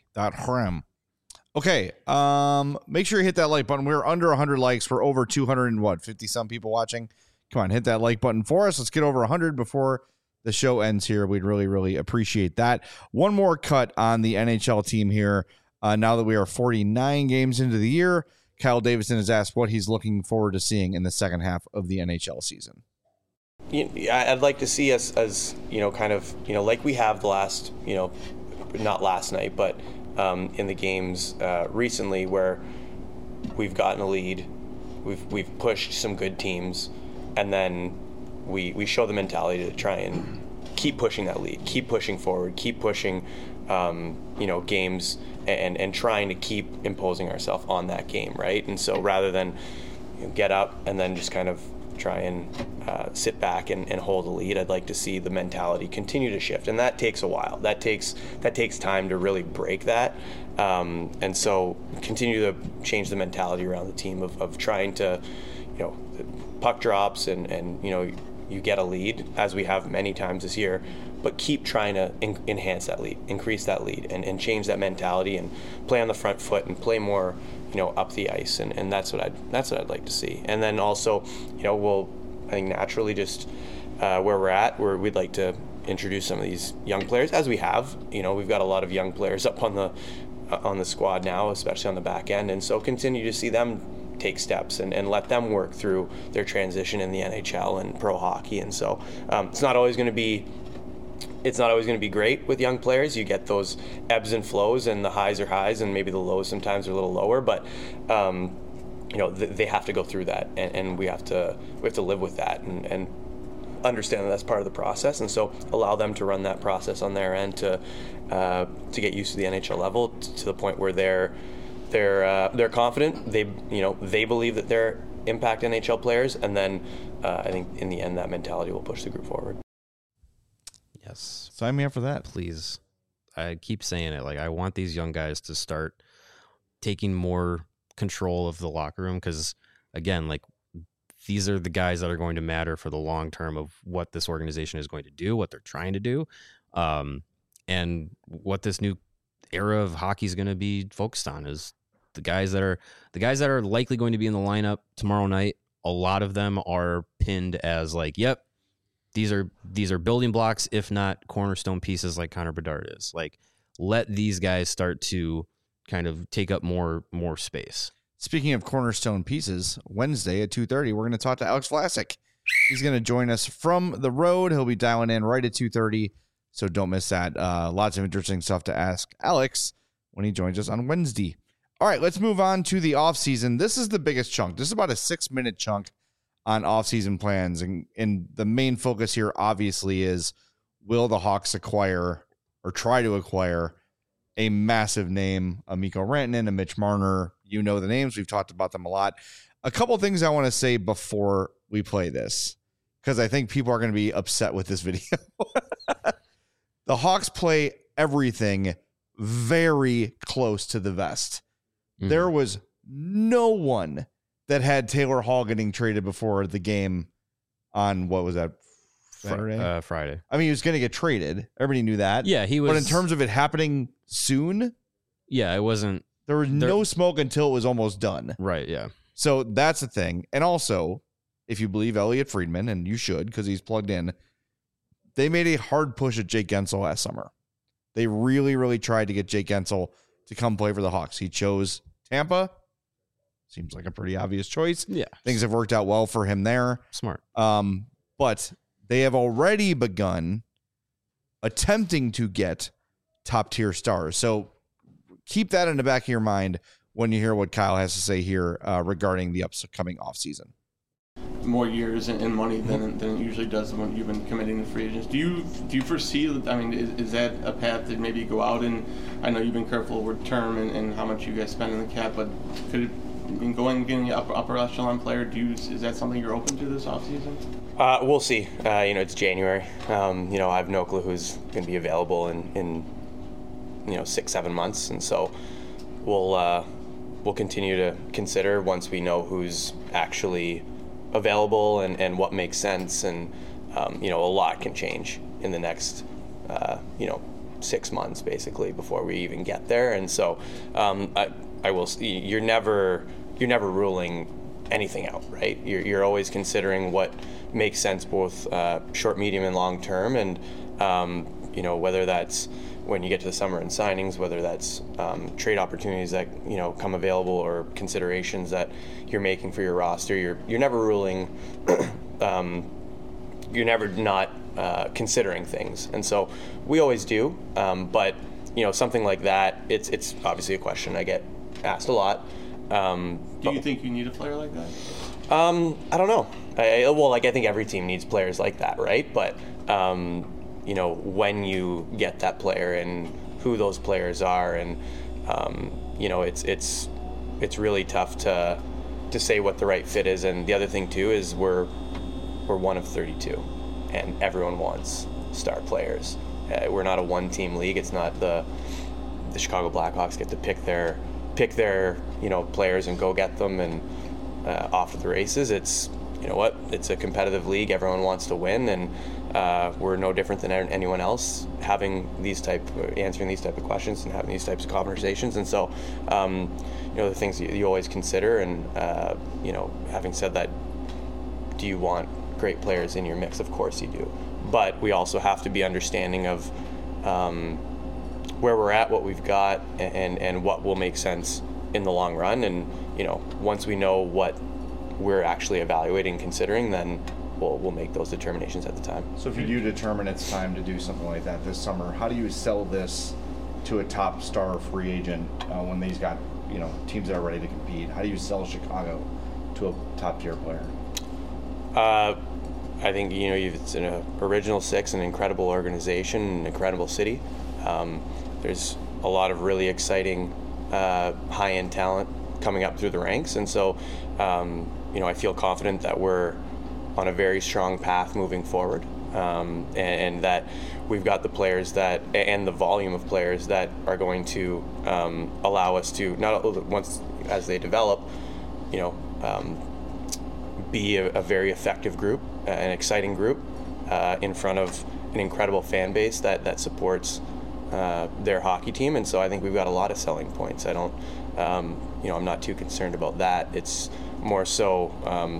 S1: Okay, make sure you hit that like button. We're under 100 likes. We're over 250 some people watching. Come on, hit that like button for us. Let's get over 100 before the show ends here. We'd really, really appreciate that. One more cut on the NHL team here. Now that we are 49 games into the year, Kyle Davidson has asked what he's looking forward to seeing in the second half of the NHL season.
S4: I'd like to see us as, kind of, like we have the last, not last night, but in the games recently where we've gotten a lead, we've pushed some good teams, and then we show the mentality to try and keep pushing that lead, keep pushing forward, keep pushing, games and trying to keep imposing ourselves on that game, right? And so rather than get up and then just kind of try and sit back and hold a lead, I'd like to see the mentality continue to shift, and that takes a while. That takes time to really break that, and so continue to change the mentality around the team of trying to, puck drops and you get a lead, as we have many times this year, but keep trying to enhance that lead, increase that lead, and change that mentality and play on the front foot and play more, up the ice, and that's what I'd like to see. And then also, we'll, I think, naturally just where we're at, where we'd like to introduce some of these young players, as we have. We've got a lot of young players up on the squad now, especially on the back end, and so continue to see them take steps and let them work through their transition in the NHL and pro hockey. And so it's not always going to be great with young players. You get those ebbs and flows, and the highs are highs and maybe the lows sometimes are a little lower, but they have to go through that, and we have to live with that and understand that that's part of the process. And so allow them to run that process on their end to get used to the NHL level to the point where they're confident. They believe that they're impact NHL players, and then I think in the end that mentality will push the group forward.
S2: Yes.
S1: Sign me up for that.
S2: Please. I keep saying it. Like, I want these young guys to start taking more control of the locker room because, again, like, these are the guys that are going to matter for the long term of what this organization is going to do, what they're trying to do, and what this new era of hockey is going to be focused on is the guys that are likely going to be in the lineup tomorrow night. A lot of them are pinned as like, yep, these are building blocks, if not cornerstone pieces like Connor Bedard is. Like, let these guys start to kind of take up more space.
S1: Speaking of cornerstone pieces, Wednesday at 2:30, we're going to talk to Alex Vlasic. He's going to join us from the road. He'll be dialing in right at 2:30, so don't miss that. Lots of interesting stuff to ask Alex when he joins us on Wednesday. All right, let's move on to the offseason. This is the biggest chunk. This is about a 6-minute chunk on offseason plans, and the main focus here obviously is, will the Hawks acquire or try to acquire a massive name, a Mikko Rantanen, a Mitch Marner? You know the names. We've talked about them a lot. A couple things I want to say before we play this, because I think people are going to be upset with this video. The Hawks play everything very close to the vest. Mm-hmm. There was no one that had Taylor Hall getting traded before the game on, what was that, Saturday?
S2: Friday.
S1: I mean, he was going to get traded. Everybody knew that.
S2: Yeah, he was.
S1: But in terms of it happening soon,
S2: yeah, it wasn't.
S1: There was no smoke until it was almost done.
S2: Right, yeah.
S1: So that's the thing. And also, if you believe Elliot Friedman, and you should because he's plugged in, they made a hard push at Jake Gensel last summer. They really, really tried to get Jake Gensel to come play for the Hawks. He chose Tampa. Seems like a pretty obvious choice.
S2: Yeah.
S1: Things have worked out well for him there.
S2: Smart.
S1: But they have already begun attempting to get top-tier stars. So keep that in the back of your mind when you hear what Kyle has to say here regarding the upcoming offseason.
S5: More years and money than it usually does when you've been committing to free agents. Do you foresee, I mean, is that a path that maybe go out, and I know you've been careful with term and how much you guys spend in the cap, but could it, in going and getting an upper echelon player, is that something you're open to this offseason?
S4: We'll see. It's January. I have no clue who's going to be available in 6-7 months, and so we'll continue to consider once we know who's actually available and what makes sense, and a lot can change in the next 6 months basically before we even get there, and so I will. You're never ruling anything out, right? You're always considering what makes sense both short, medium, and long term, and whether that's when you get to the summer and signings, whether that's trade opportunities that come available or considerations that you're making for your roster. You're never ruling. You're never not considering things, and so we always do. But something like that, it's obviously a question I get asked a lot.
S5: Do you think you need a player like that?
S4: I don't know. I think every team needs players like that, right? But when you get that player and who those players are, and it's really tough to say what the right fit is. And the other thing too is we're one of 32, and everyone wants star players. We're not a one-team league. It's not the Chicago Blackhawks get to pick their players and go get them and off to the races. It's it's a competitive league. Everyone wants to win, and we're no different than anyone else answering these type of questions and having these types of conversations. And so the things you always consider, and having said that, do you want great players in your mix? Of course you do, but we also have to be understanding of where we're at, what we've got, and what will make sense in the long run. And once we know what we're actually evaluating and considering, then we'll make those determinations at the time.
S1: So if you do determine it's time to do something like that this summer, how do you sell this to a top star free agent when they've got teams that are ready to compete? How do you sell Chicago to a top tier player?
S4: I think it's an original six, an incredible organization, an incredible city. There's a lot of really exciting high-end talent coming up through the ranks, and so I feel confident that we're on a very strong path moving forward, and that we've got the players that, and the volume of players that are going to allow us to, not once as they develop, be a very effective group, an exciting group, in front of an incredible fan base that supports their hockey team. And so I think we've got a lot of selling points. I don't, I'm not too concerned about that. It's more so,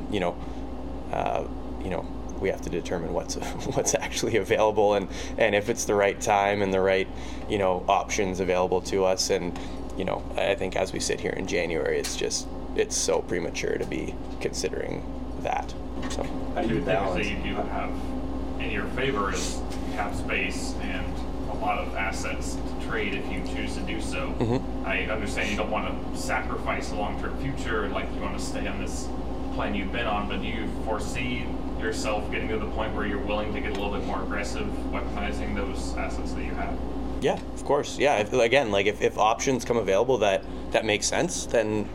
S4: we have to determine what's actually available, and if it's the right time and the right, options available to us. And, I think as we sit here in January, it's so premature to be considering that. So
S6: how do you balance? Things that you do have in your favor is cap space and a lot of assets to trade if you choose to do so.
S4: Mm-hmm.
S6: I understand you don't want to sacrifice a long-term future, like you want to stay on this plan you've been on, but do you foresee yourself getting to the point where you're willing to get a little bit more aggressive weaponizing those assets that you have?
S4: Yeah, of course. Yeah, if options come available that make sense, then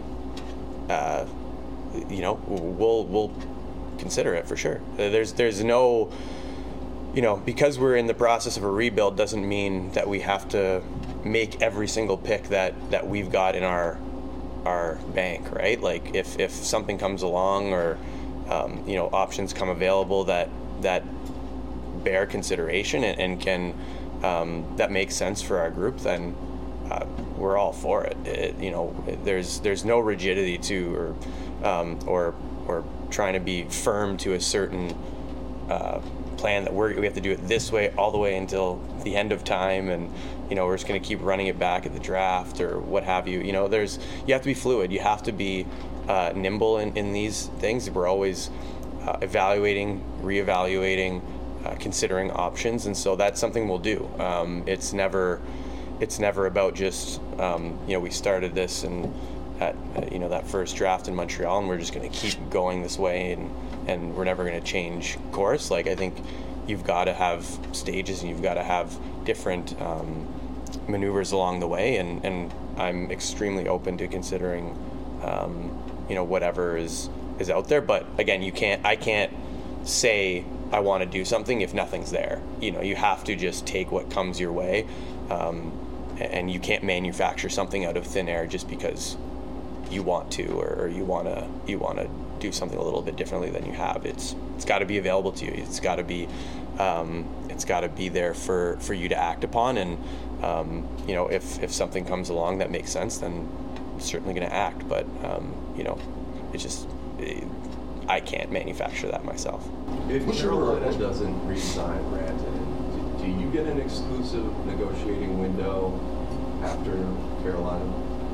S4: we'll consider it for sure. There's no, because we're in the process of a rebuild doesn't mean that we have to make every single pick that we've got in our bank, right? Like if something comes along or options come available that bear consideration and can that makes sense for our group, then we're all for it. There's no rigidity to or trying to be firm to a certain plan that we have to do it this way all the way until the end of time, and we're just going to keep running it back at the draft or what have you. You have to be fluid. You have to be nimble in these things. We're always evaluating, reevaluating, considering options, and so that's something we'll do. It's never about just we started this and at that first draft in Montreal, and we're just going to keep going this way, and we're never going to change course. Like, I think you've got to have stages and you've got to have different maneuvers along the way, and I'm extremely open to considering whatever is out there. But again, I can't say I want to do something if nothing's there. You have to just take what comes your way, and you can't manufacture something out of thin air just because you want to, or you want to do something a little bit differently than you have. It's got to be available to you. It's got to be there for you to act upon. And if something comes along that makes sense, then I'm certainly going to act. But it's just I can't manufacture that myself.
S7: If Carolina doesn't re-sign Rantanen, do you get an exclusive negotiating window after Carolina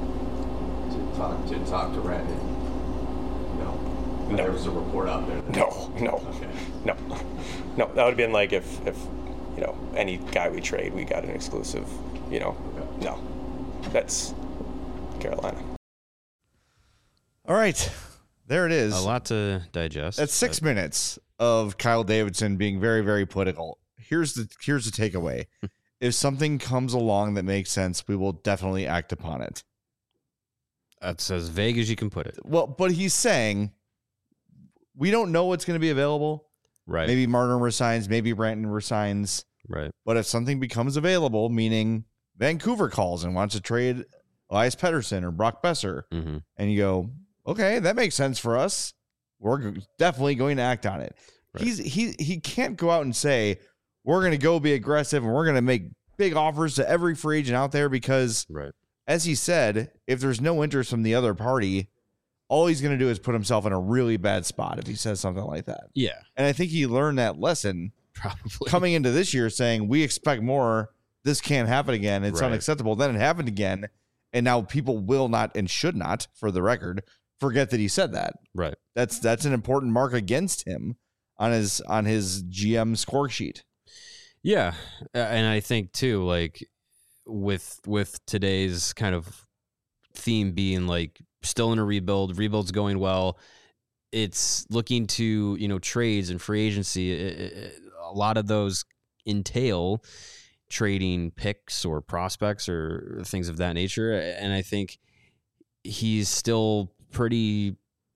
S7: to talk to Rantanen? No. There was a report out there.
S4: No.
S7: Okay.
S4: No. That would have been like if any guy we trade, we got an exclusive. Okay. No. That's Carolina.
S1: All right. There it is.
S2: A lot to digest.
S1: That's 6 minutes of Kyle Davidson being very, very political. Here's the takeaway. If something comes along that makes sense, we will definitely act upon it.
S2: That's as vague as you can put it.
S1: Well, but he's saying we don't know what's going to be available.
S2: Right.
S1: Maybe Martin resigns, maybe Branton resigns.
S2: Right.
S1: But if something becomes available, meaning Vancouver calls and wants to trade Elias Pettersson or Brock Besser,
S2: mm-hmm.
S1: and you go, okay, that makes sense for us, we're definitely going to act on it. Right. He can't go out and say, we're going to go be aggressive and we're going to make big offers to every free agent out there, because
S2: right.
S1: As he said, if there's no interest from the other party, all he's going to do is put himself in a really bad spot if he says something like that.
S2: Yeah.
S1: And I think he learned that lesson
S2: probably
S1: coming into this year, saying, we expect more. This can't happen again. It's unacceptable. Then it happened again. And now people will not and should not, for the record, forget that he said that.
S2: Right.
S1: That's an important mark against him on his GM score sheet.
S2: Yeah. And I think too, like with today's kind of theme being like still in a rebuild's going well. It's looking to, trades and free agency. A lot of those entail trading picks or prospects or things of that nature. And I think he's still pretty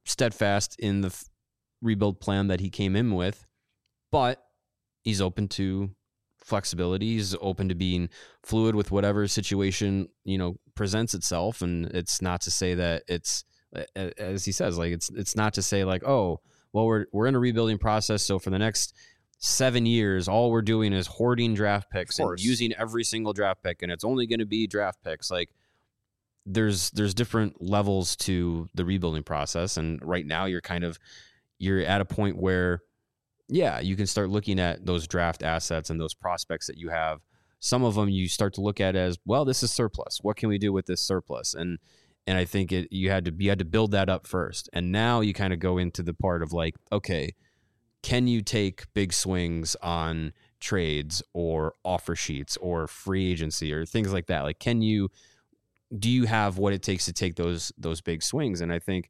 S2: steadfast in the rebuild plan that he came in with, but he's open to flexibility. He's open to being fluid with whatever situation, presents itself. And it's not to say that it's, as he says, like, it's not to say like, oh, well, we're in a rebuilding process. So for the next 7 years, all we're doing is hoarding draft picks and using every single draft pick, and it's only going to be draft picks. Like, there's different levels to the rebuilding process. And right now you're at a point where, yeah, you can start looking at those draft assets and those prospects that you have. Some of them you start to look at as, well, this is surplus. What can we do with this surplus? And I think you had to build that up first. And now you kind of go into the part of like, okay, can you take big swings on trades or offer sheets or free agency or things like that? Like, do you have what it takes to take those big swings? And I think,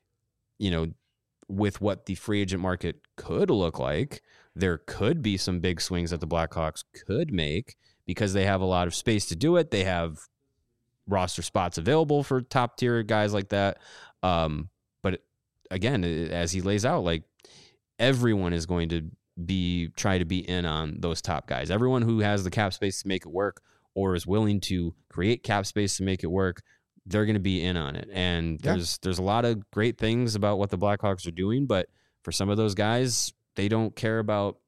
S2: with what the free agent market could look like, there could be some big swings that the Blackhawks could make because they have a lot of space to do it. They have roster spots available for top tier guys like that. But again, as he lays out, like, everyone is going to try to be in on those top guys. Everyone who has the cap space to make it work or is willing to create cap space to make it work, they're going to be in on it. And there's a lot of great things about what the Blackhawks are doing, but for some of those guys, they don't care about,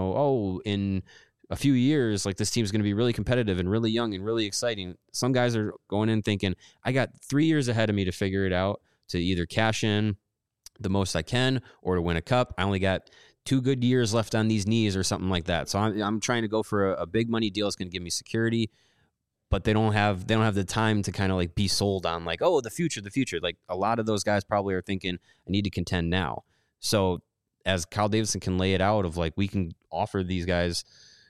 S2: in a few years, like, this team's going to be really competitive and really young and really exciting. Some guys are going in thinking, I got 3 years ahead of me to figure it out, to either cash in the most I can or to win a cup. I only got 2 good years left on these knees or something like that. So I'm trying to go for a big money deal. It's going to give me security, but they don't have the time to kind of like be sold on like, oh, the future. Like, a lot of those guys probably are thinking, I need to contend now. So as Kyle Davidson can lay it out of like, we can offer these guys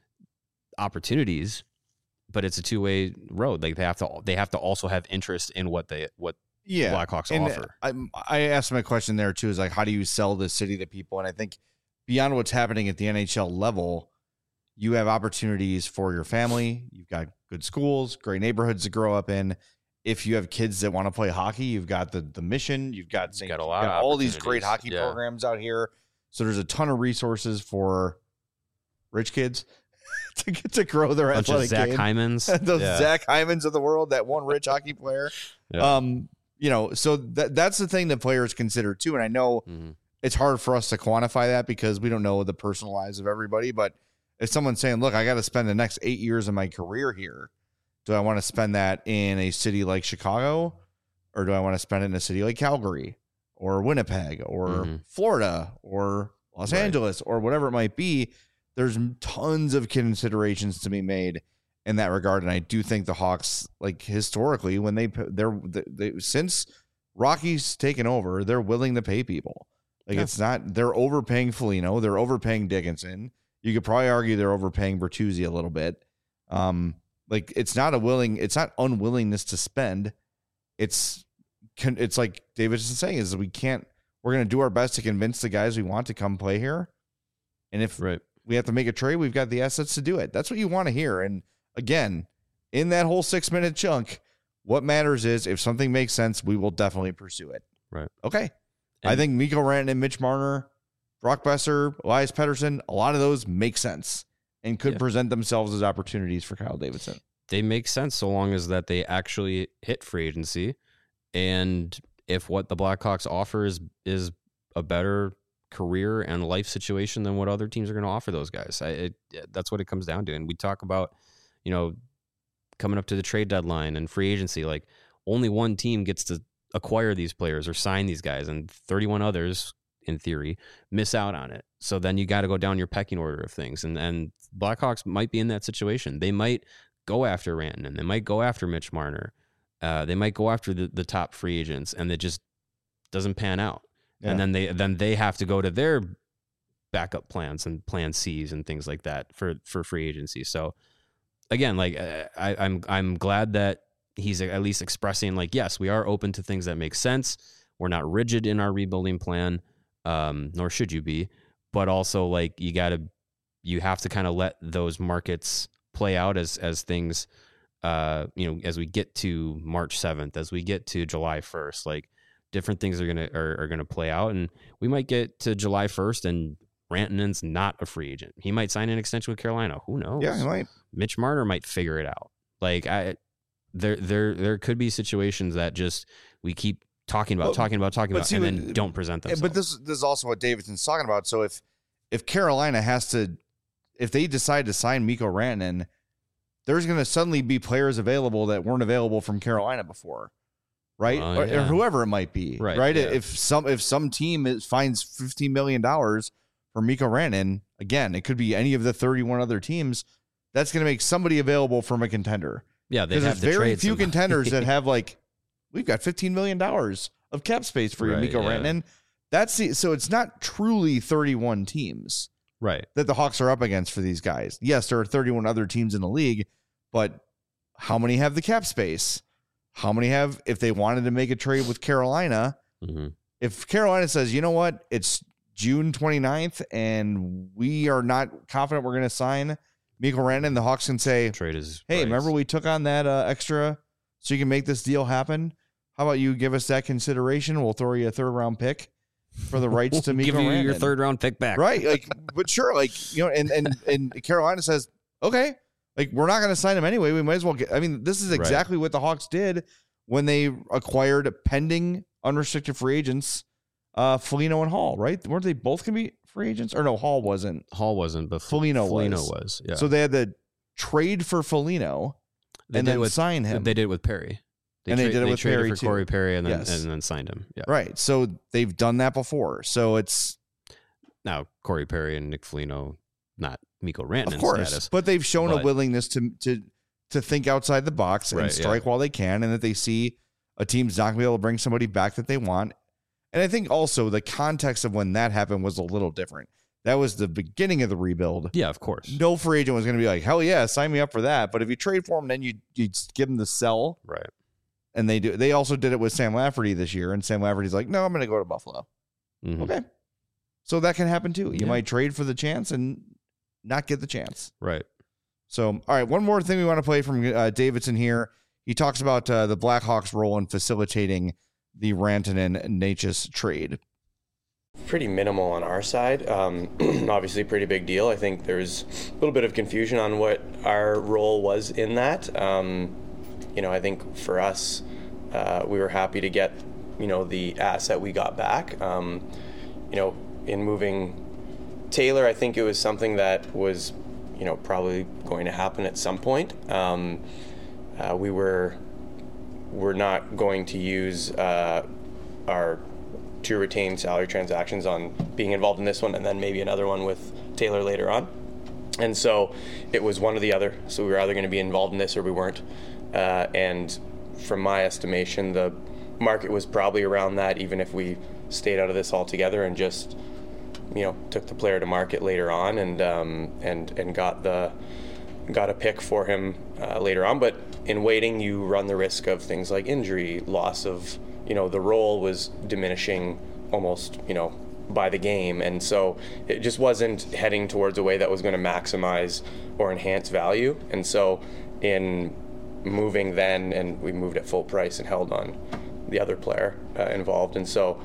S2: opportunities, but it's a two-way road. Like, they have to also have interest in what Blackhawks offer.
S1: I asked my question there too, is like, how do you sell this city to people? And I think beyond what's happening at the NHL level, you have opportunities for your family. You've got good schools, great neighborhoods to grow up in. If you have kids that want to play hockey, you've got the Mission. You've got all these great hockey programs out here. So there's a ton of resources for rich kids to get to grow their athletic
S2: Zach
S1: game.
S2: Hymans.
S1: Those Zach Hymans of the world, that one rich hockey player. Yeah. So that's the thing that players consider too. And I know it's hard for us to quantify that because we don't know the personal lives of everybody. But if someone's saying, look, I got to spend the next 8 years of my career here, do I want to spend that in a city like Chicago, or do I want to spend it in a city like Calgary or Winnipeg or Florida or Los Angeles or whatever it might be? There's tons of considerations to be made in that regard. And I do think the Hawks, like, historically, when they since Rocky's taken over, they're willing to pay people. Like, it's not, they're overpaying Foligno, they're overpaying Dickinson. You could probably argue they're overpaying Bertuzzi a little bit. Like, it's not unwillingness to spend. It's like David's saying, is we're going to do our best to convince the guys we want to come play here. And if we have to make a trade, we've got the assets to do it. That's what you want to hear. And again, in that whole 6-minute chunk, what matters is if something makes sense, we will definitely pursue it.
S2: Right.
S1: Okay. And I think Mikko Rantanen, Mitch Marner, Brock Besser, Elias Pettersson, a lot of those make sense and could present themselves as opportunities for Kyle Davidson.
S2: They make sense so long as that they actually hit free agency. And if what the Blackhawks offer is a better career and life situation than what other teams are going to offer those guys. That's what it comes down to. And we talk about, coming up to the trade deadline and free agency, like, only one team gets to acquire these players or sign these guys, and 31 others, in theory, miss out on it. So then you got to go down your pecking order of things. And Blackhawks might be in that situation. They might go after Rantanen. They might go after Mitch Marner. They might go after the top free agents, and it just doesn't pan out. Yeah. And then they have to go to their backup plans and plan C's and things like that for free agency. So again, like, I'm glad that he's at least expressing, like, yes, we are open to things that make sense. We're not rigid in our rebuilding plan, nor should you be. But also, like, you have to kind of let those markets play out as things, as we get to March 7th, as we get to July 1st, like, different things are gonna play out, and we might get to July 1st and Rantanen's not a free agent. He might sign an extension with Carolina. Who knows?
S1: Yeah, he might.
S2: Mitch Marner might figure it out. Like there could be situations that just we keep talking about, and then don't present themselves.
S1: But this is also what Davidson's talking about. So if Carolina if they decide to sign Mikko Rantanen, there's going to suddenly be players available that weren't available from Carolina before, right? Or whoever it might be, right?
S2: Yeah.
S1: If some team finds $15 million for Mikko Rantanen, again, it could be any of the 31 other teams. That's going to make somebody available from a contender.
S2: Yeah,
S1: because there's very few contenders that have we've got $15 million of cap space for you, Mikko Rantanen. So it's not truly 31 teams.
S2: Right.
S1: That the Hawks are up against for these guys. Yes, there are 31 other teams in the league, but how many have the cap space? How many have, if they wanted to make a trade with Carolina, if Carolina says, you know what, it's June 29th and we are not confident we're going to sign Mikko Rantanen, the Hawks can say, hey, remember we took on that extra so you can make this deal happen? How about you give us that consideration? We'll throw you a 3rd round pick for the rights to Mikko Rantanen.
S2: Give you your 3rd round pick back.
S1: Right. But sure, and Carolina says, okay, we're not going to sign him anyway. We might as well this is exactly what the Hawks did when they acquired pending unrestricted free agents, Foligno and Hall, right? Weren't they both going to be free agents? Or no, Hall wasn't, but Foligno was.
S2: Yeah.
S1: So they had to trade for Foligno and then sign him.
S2: They did it with Perry. They traded for Corey Perry and then signed him. Yeah.
S1: Right. So they've done that before. So it's
S2: now Corey Perry and Nick Foligno, not Mikko Rantanen,
S1: of course,
S2: status,
S1: but they've shown a willingness to think outside the box and strike while they can, and that they see a team's not going to be able to bring somebody back that they want. And I think also the context of when that happened was a little different. That was the beginning of the rebuild.
S2: Yeah, of course.
S1: No free agent was going to be like, hell yeah, sign me up for that. But if you trade for him, then you give them the sell.
S2: Right.
S1: And they do. They also did it with Sam Lafferty this year, and Sam Lafferty's like, no, I'm going to go to Buffalo.
S2: Mm-hmm.
S1: Okay. So that can happen too. You might trade for the chance and not get the chance.
S2: Right.
S1: So, all right, one more thing we want to play from Davidson here. He talks about the Blackhawks' role in facilitating the Rantanen-Necas trade.
S4: Pretty minimal on our side. Obviously, pretty big deal. I think there's a little bit of confusion on what our role was in that. I think for us, we were happy to get, the asset we got back. In moving Taylor, I think it was something that was, probably going to happen at some point. We're not going to use our 2 retained salary transactions on being involved in this one and then maybe another one with Taylor later on. And so it was one or the other. So we were either going to be involved in this or we weren't. And from my estimation, the market was probably around that, even if we stayed out of this altogether and just, took the player to market later on and got a pick for him later on. But in waiting, you run the risk of things like injury, loss of, the role was diminishing almost, by the game. And so it just wasn't heading towards a way that was going to maximize or enhance value. And so in moving then, and we moved at full price and held on the other player involved. And so,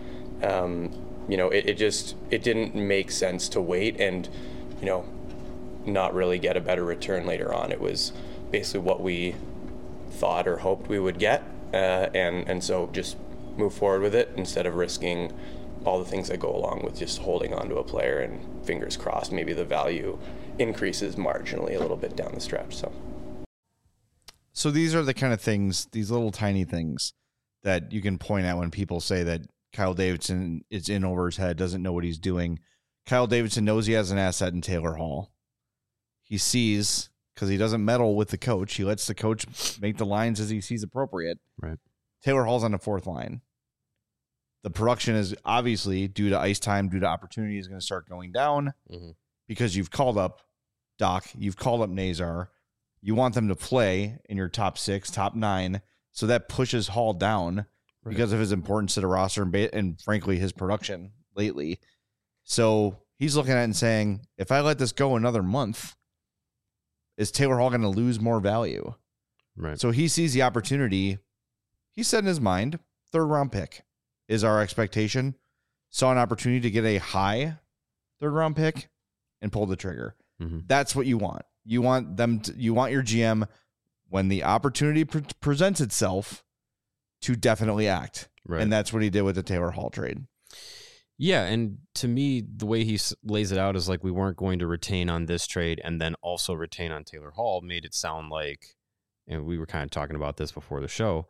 S4: it didn't make sense to wait and, not really get a better return later on. It was basically what we thought or hoped we would get. And so just move forward with it instead of risking all the things that go along with just holding on to a player, and fingers crossed, maybe the value increases marginally a little bit down the stretch.
S1: So these are the kind of things, these little tiny things that you can point at when people say that Kyle Davidson is in over his head, doesn't know what he's doing. Kyle Davidson knows he has an asset in Taylor Hall. He sees, because he doesn't meddle with the coach, he lets the coach make the lines as he sees appropriate.
S2: Right.
S1: Taylor Hall's on the 4th line. The production is obviously, due to ice time, due to opportunity, is going to start going down because you've called up Doc, you've called up Nazar. You want them to play in your top 6, top 9, so that pushes Hall down because of his importance to the roster and frankly, his production lately. So he's looking at it and saying, if I let this go another month, is Taylor Hall going to lose more value?
S2: Right.
S1: So he sees the opportunity. He said in his mind, 3rd round pick. is our expectation, saw an opportunity to get a high third-round pick and pull the trigger.
S2: Mm-hmm.
S1: That's what you want. You want you want your GM, when the opportunity presents itself, to definitely act.
S2: Right.
S1: And that's what he did with the Taylor Hall trade.
S2: Yeah, and to me, the way he lays it out is like we weren't going to retain on this trade and then also retain on Taylor Hall made it sound like, and we were kind of talking about this before the show,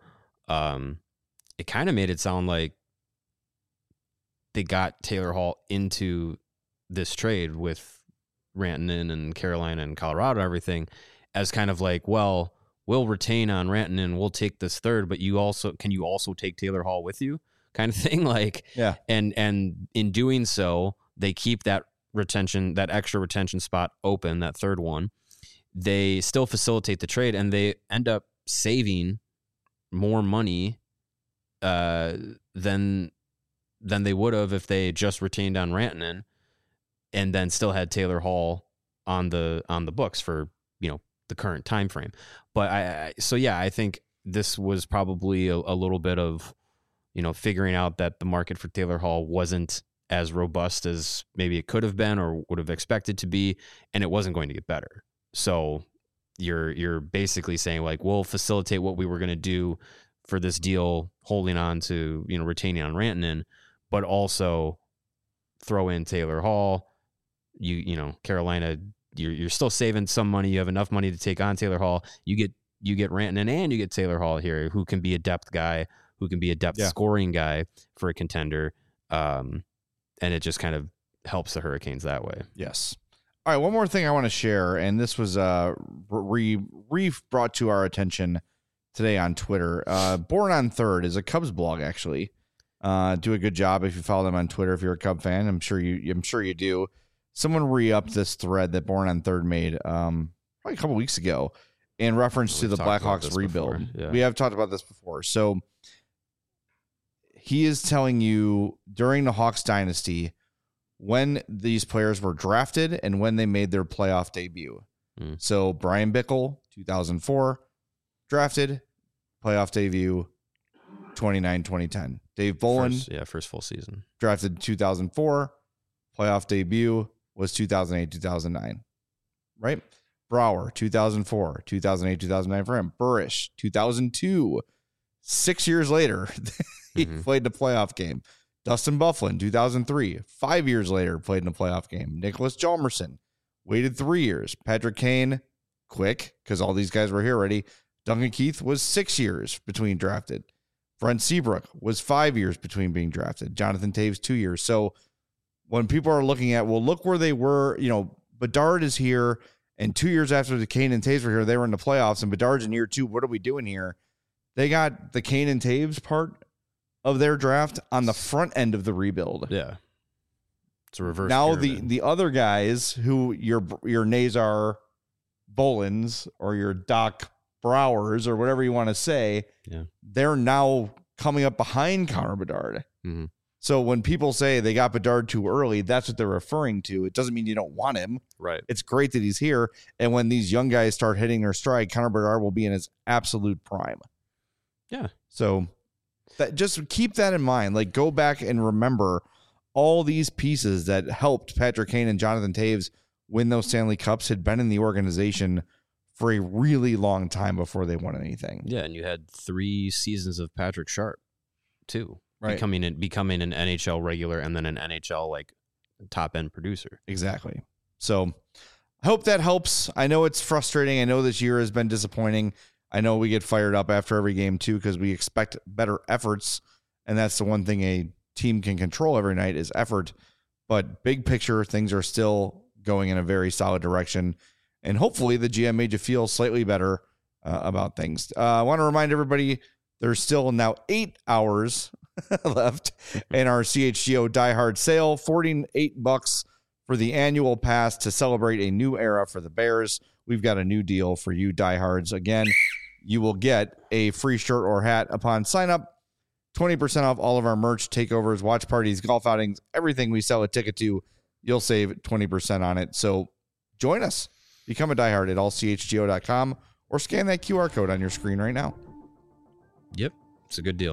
S2: it kind of made it sound like they got Taylor Hall into this trade with Rantanen and Carolina and Colorado and everything as kind of like, well, we'll retain on Rantanen, we'll take this third, but can you also take Taylor Hall with you? Kind of thing. Like,
S1: yeah.
S2: And in doing so, they keep that extra retention spot open, that third one. They still facilitate the trade, and they end up saving more money than they would have if they just retained on Rantanen and then still had Taylor Hall on the books for, the current time frame. But I think this was probably a little bit of, figuring out that the market for Taylor Hall wasn't as robust as maybe it could have been or would have expected to be, and it wasn't going to get better. So you're basically saying, like, we'll facilitate what we were going to do for this deal, holding on to, retaining on Rantanen, but also throw in Taylor Hall. Carolina, you're still saving some money. You have enough money to take on Taylor Hall. You get Rantanen and you get Taylor Hall here, who can be a depth guy, who can be a depth scoring guy for a contender. And it just kind of helps the Hurricanes that way.
S1: Yes. All right. One more thing I want to share, and this was brought to our attention today on Twitter. Born on Third is a Cubs blog, actually. Do a good job if you follow them on Twitter. If you're a Cub fan, I'm sure you do. Someone re-upped this thread that Born on Third made probably a couple weeks ago in reference to the Blackhawks rebuild.
S2: Yeah.
S1: We have talked about this before. So he is telling you during the Hawks dynasty when these players were drafted and when they made their playoff debut. So Brian Bickle, 2004, drafted, playoff debut, 2009-2010. Dave Bolin,
S2: first full season.
S1: Drafted 2004, playoff debut was 2008-2009, right? Brouwer, 2004, 2008-2009 for him. Burrish, 2002. 6 years later, he played in a playoff game. Dustin Byfuglien, 2003. 5 years later, played in a playoff game. Nicholas Hjalmarsson, waited 3 years. Patrick Kane, quick, because all these guys were here already. Duncan Keith was 6 years between drafted. Brent Seabrook was 5 years between being drafted. Jonathan Taves, 2 years. So when people are looking at, well, look where they were, Bedard is here, and 2 years after the Kane and Taves were here, they were in the playoffs, and Bedard's in year 2. What are we doing here? They got the Kane and Taves part of their draft on the front end of the rebuild.
S2: Yeah. It's a reverse.
S1: Now
S2: pyramid.
S1: the other guys who your Nazar Bolins or your Doc Browers or whatever you want to say, they're now coming up behind Connor Bedard.
S2: Mm-hmm.
S1: So when people say they got Bedard too early, that's what they're referring to. It doesn't mean you don't want him.
S2: Right.
S1: It's great that he's here. And when these young guys start hitting their stride, Connor Bedard will be in his absolute prime.
S2: Yeah.
S1: So just keep that in mind. Like, go back and remember all these pieces that helped Patrick Kane and Jonathan Taves win those Stanley Cups had been in the organization for a really long time before they won anything.
S2: Yeah, and you had 3 seasons of Patrick Sharp, too.
S1: Right.
S2: Becoming an NHL regular and then an NHL top end producer.
S1: Exactly. So I hope that helps. I know it's frustrating. I know this year has been disappointing. I know we get fired up after every game too because we expect better efforts, and that's the one thing a team can control every night is effort. But big picture, things are still going in a very solid direction, and hopefully the GM made you feel slightly better about things. I want to remind everybody there's still now 8 hours left in our CHGO Die Hard sale. $48 for the annual pass to celebrate a new era for the Bears. We've got a new deal for you diehards. Again, you will get a free shirt or hat upon sign up. 20% off all of our merch, takeovers, watch parties, golf outings, everything we sell a ticket to. You'll save 20% on it. So join us. Become a diehard at allchgo.com or scan that QR code on your screen right now.
S2: Yep. It's a good deal.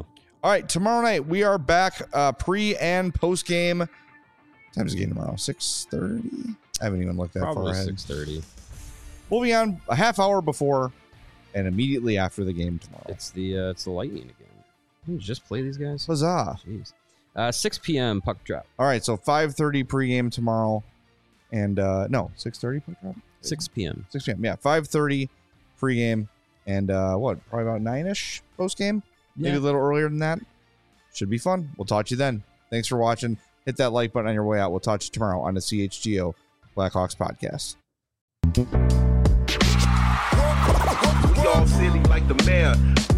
S1: All right, tomorrow night we are back pre and post game. What time's the game tomorrow? 6:30. I haven't even looked that
S2: Probably
S1: far ahead.
S2: 6:30.
S1: We'll be on a half hour before and immediately after the game tomorrow.
S2: It's the Lightning again. Didn't you just play these guys?
S1: Huzzah!
S2: Jeez. 6 p.m. puck drop.
S1: All right, so 5:30 pregame tomorrow, and no, 6:30 puck drop.
S2: 6 p.m.
S1: 6 p.m. Yeah, 5:30 pregame, and probably about 9ish postgame. Maybe a little earlier than that. Should be fun. We'll talk to you then. Thanks for watching. Hit that like button on your way out. We'll talk to you tomorrow on the CHGO Blackhawks podcast.
S8: We all silly like the mayor.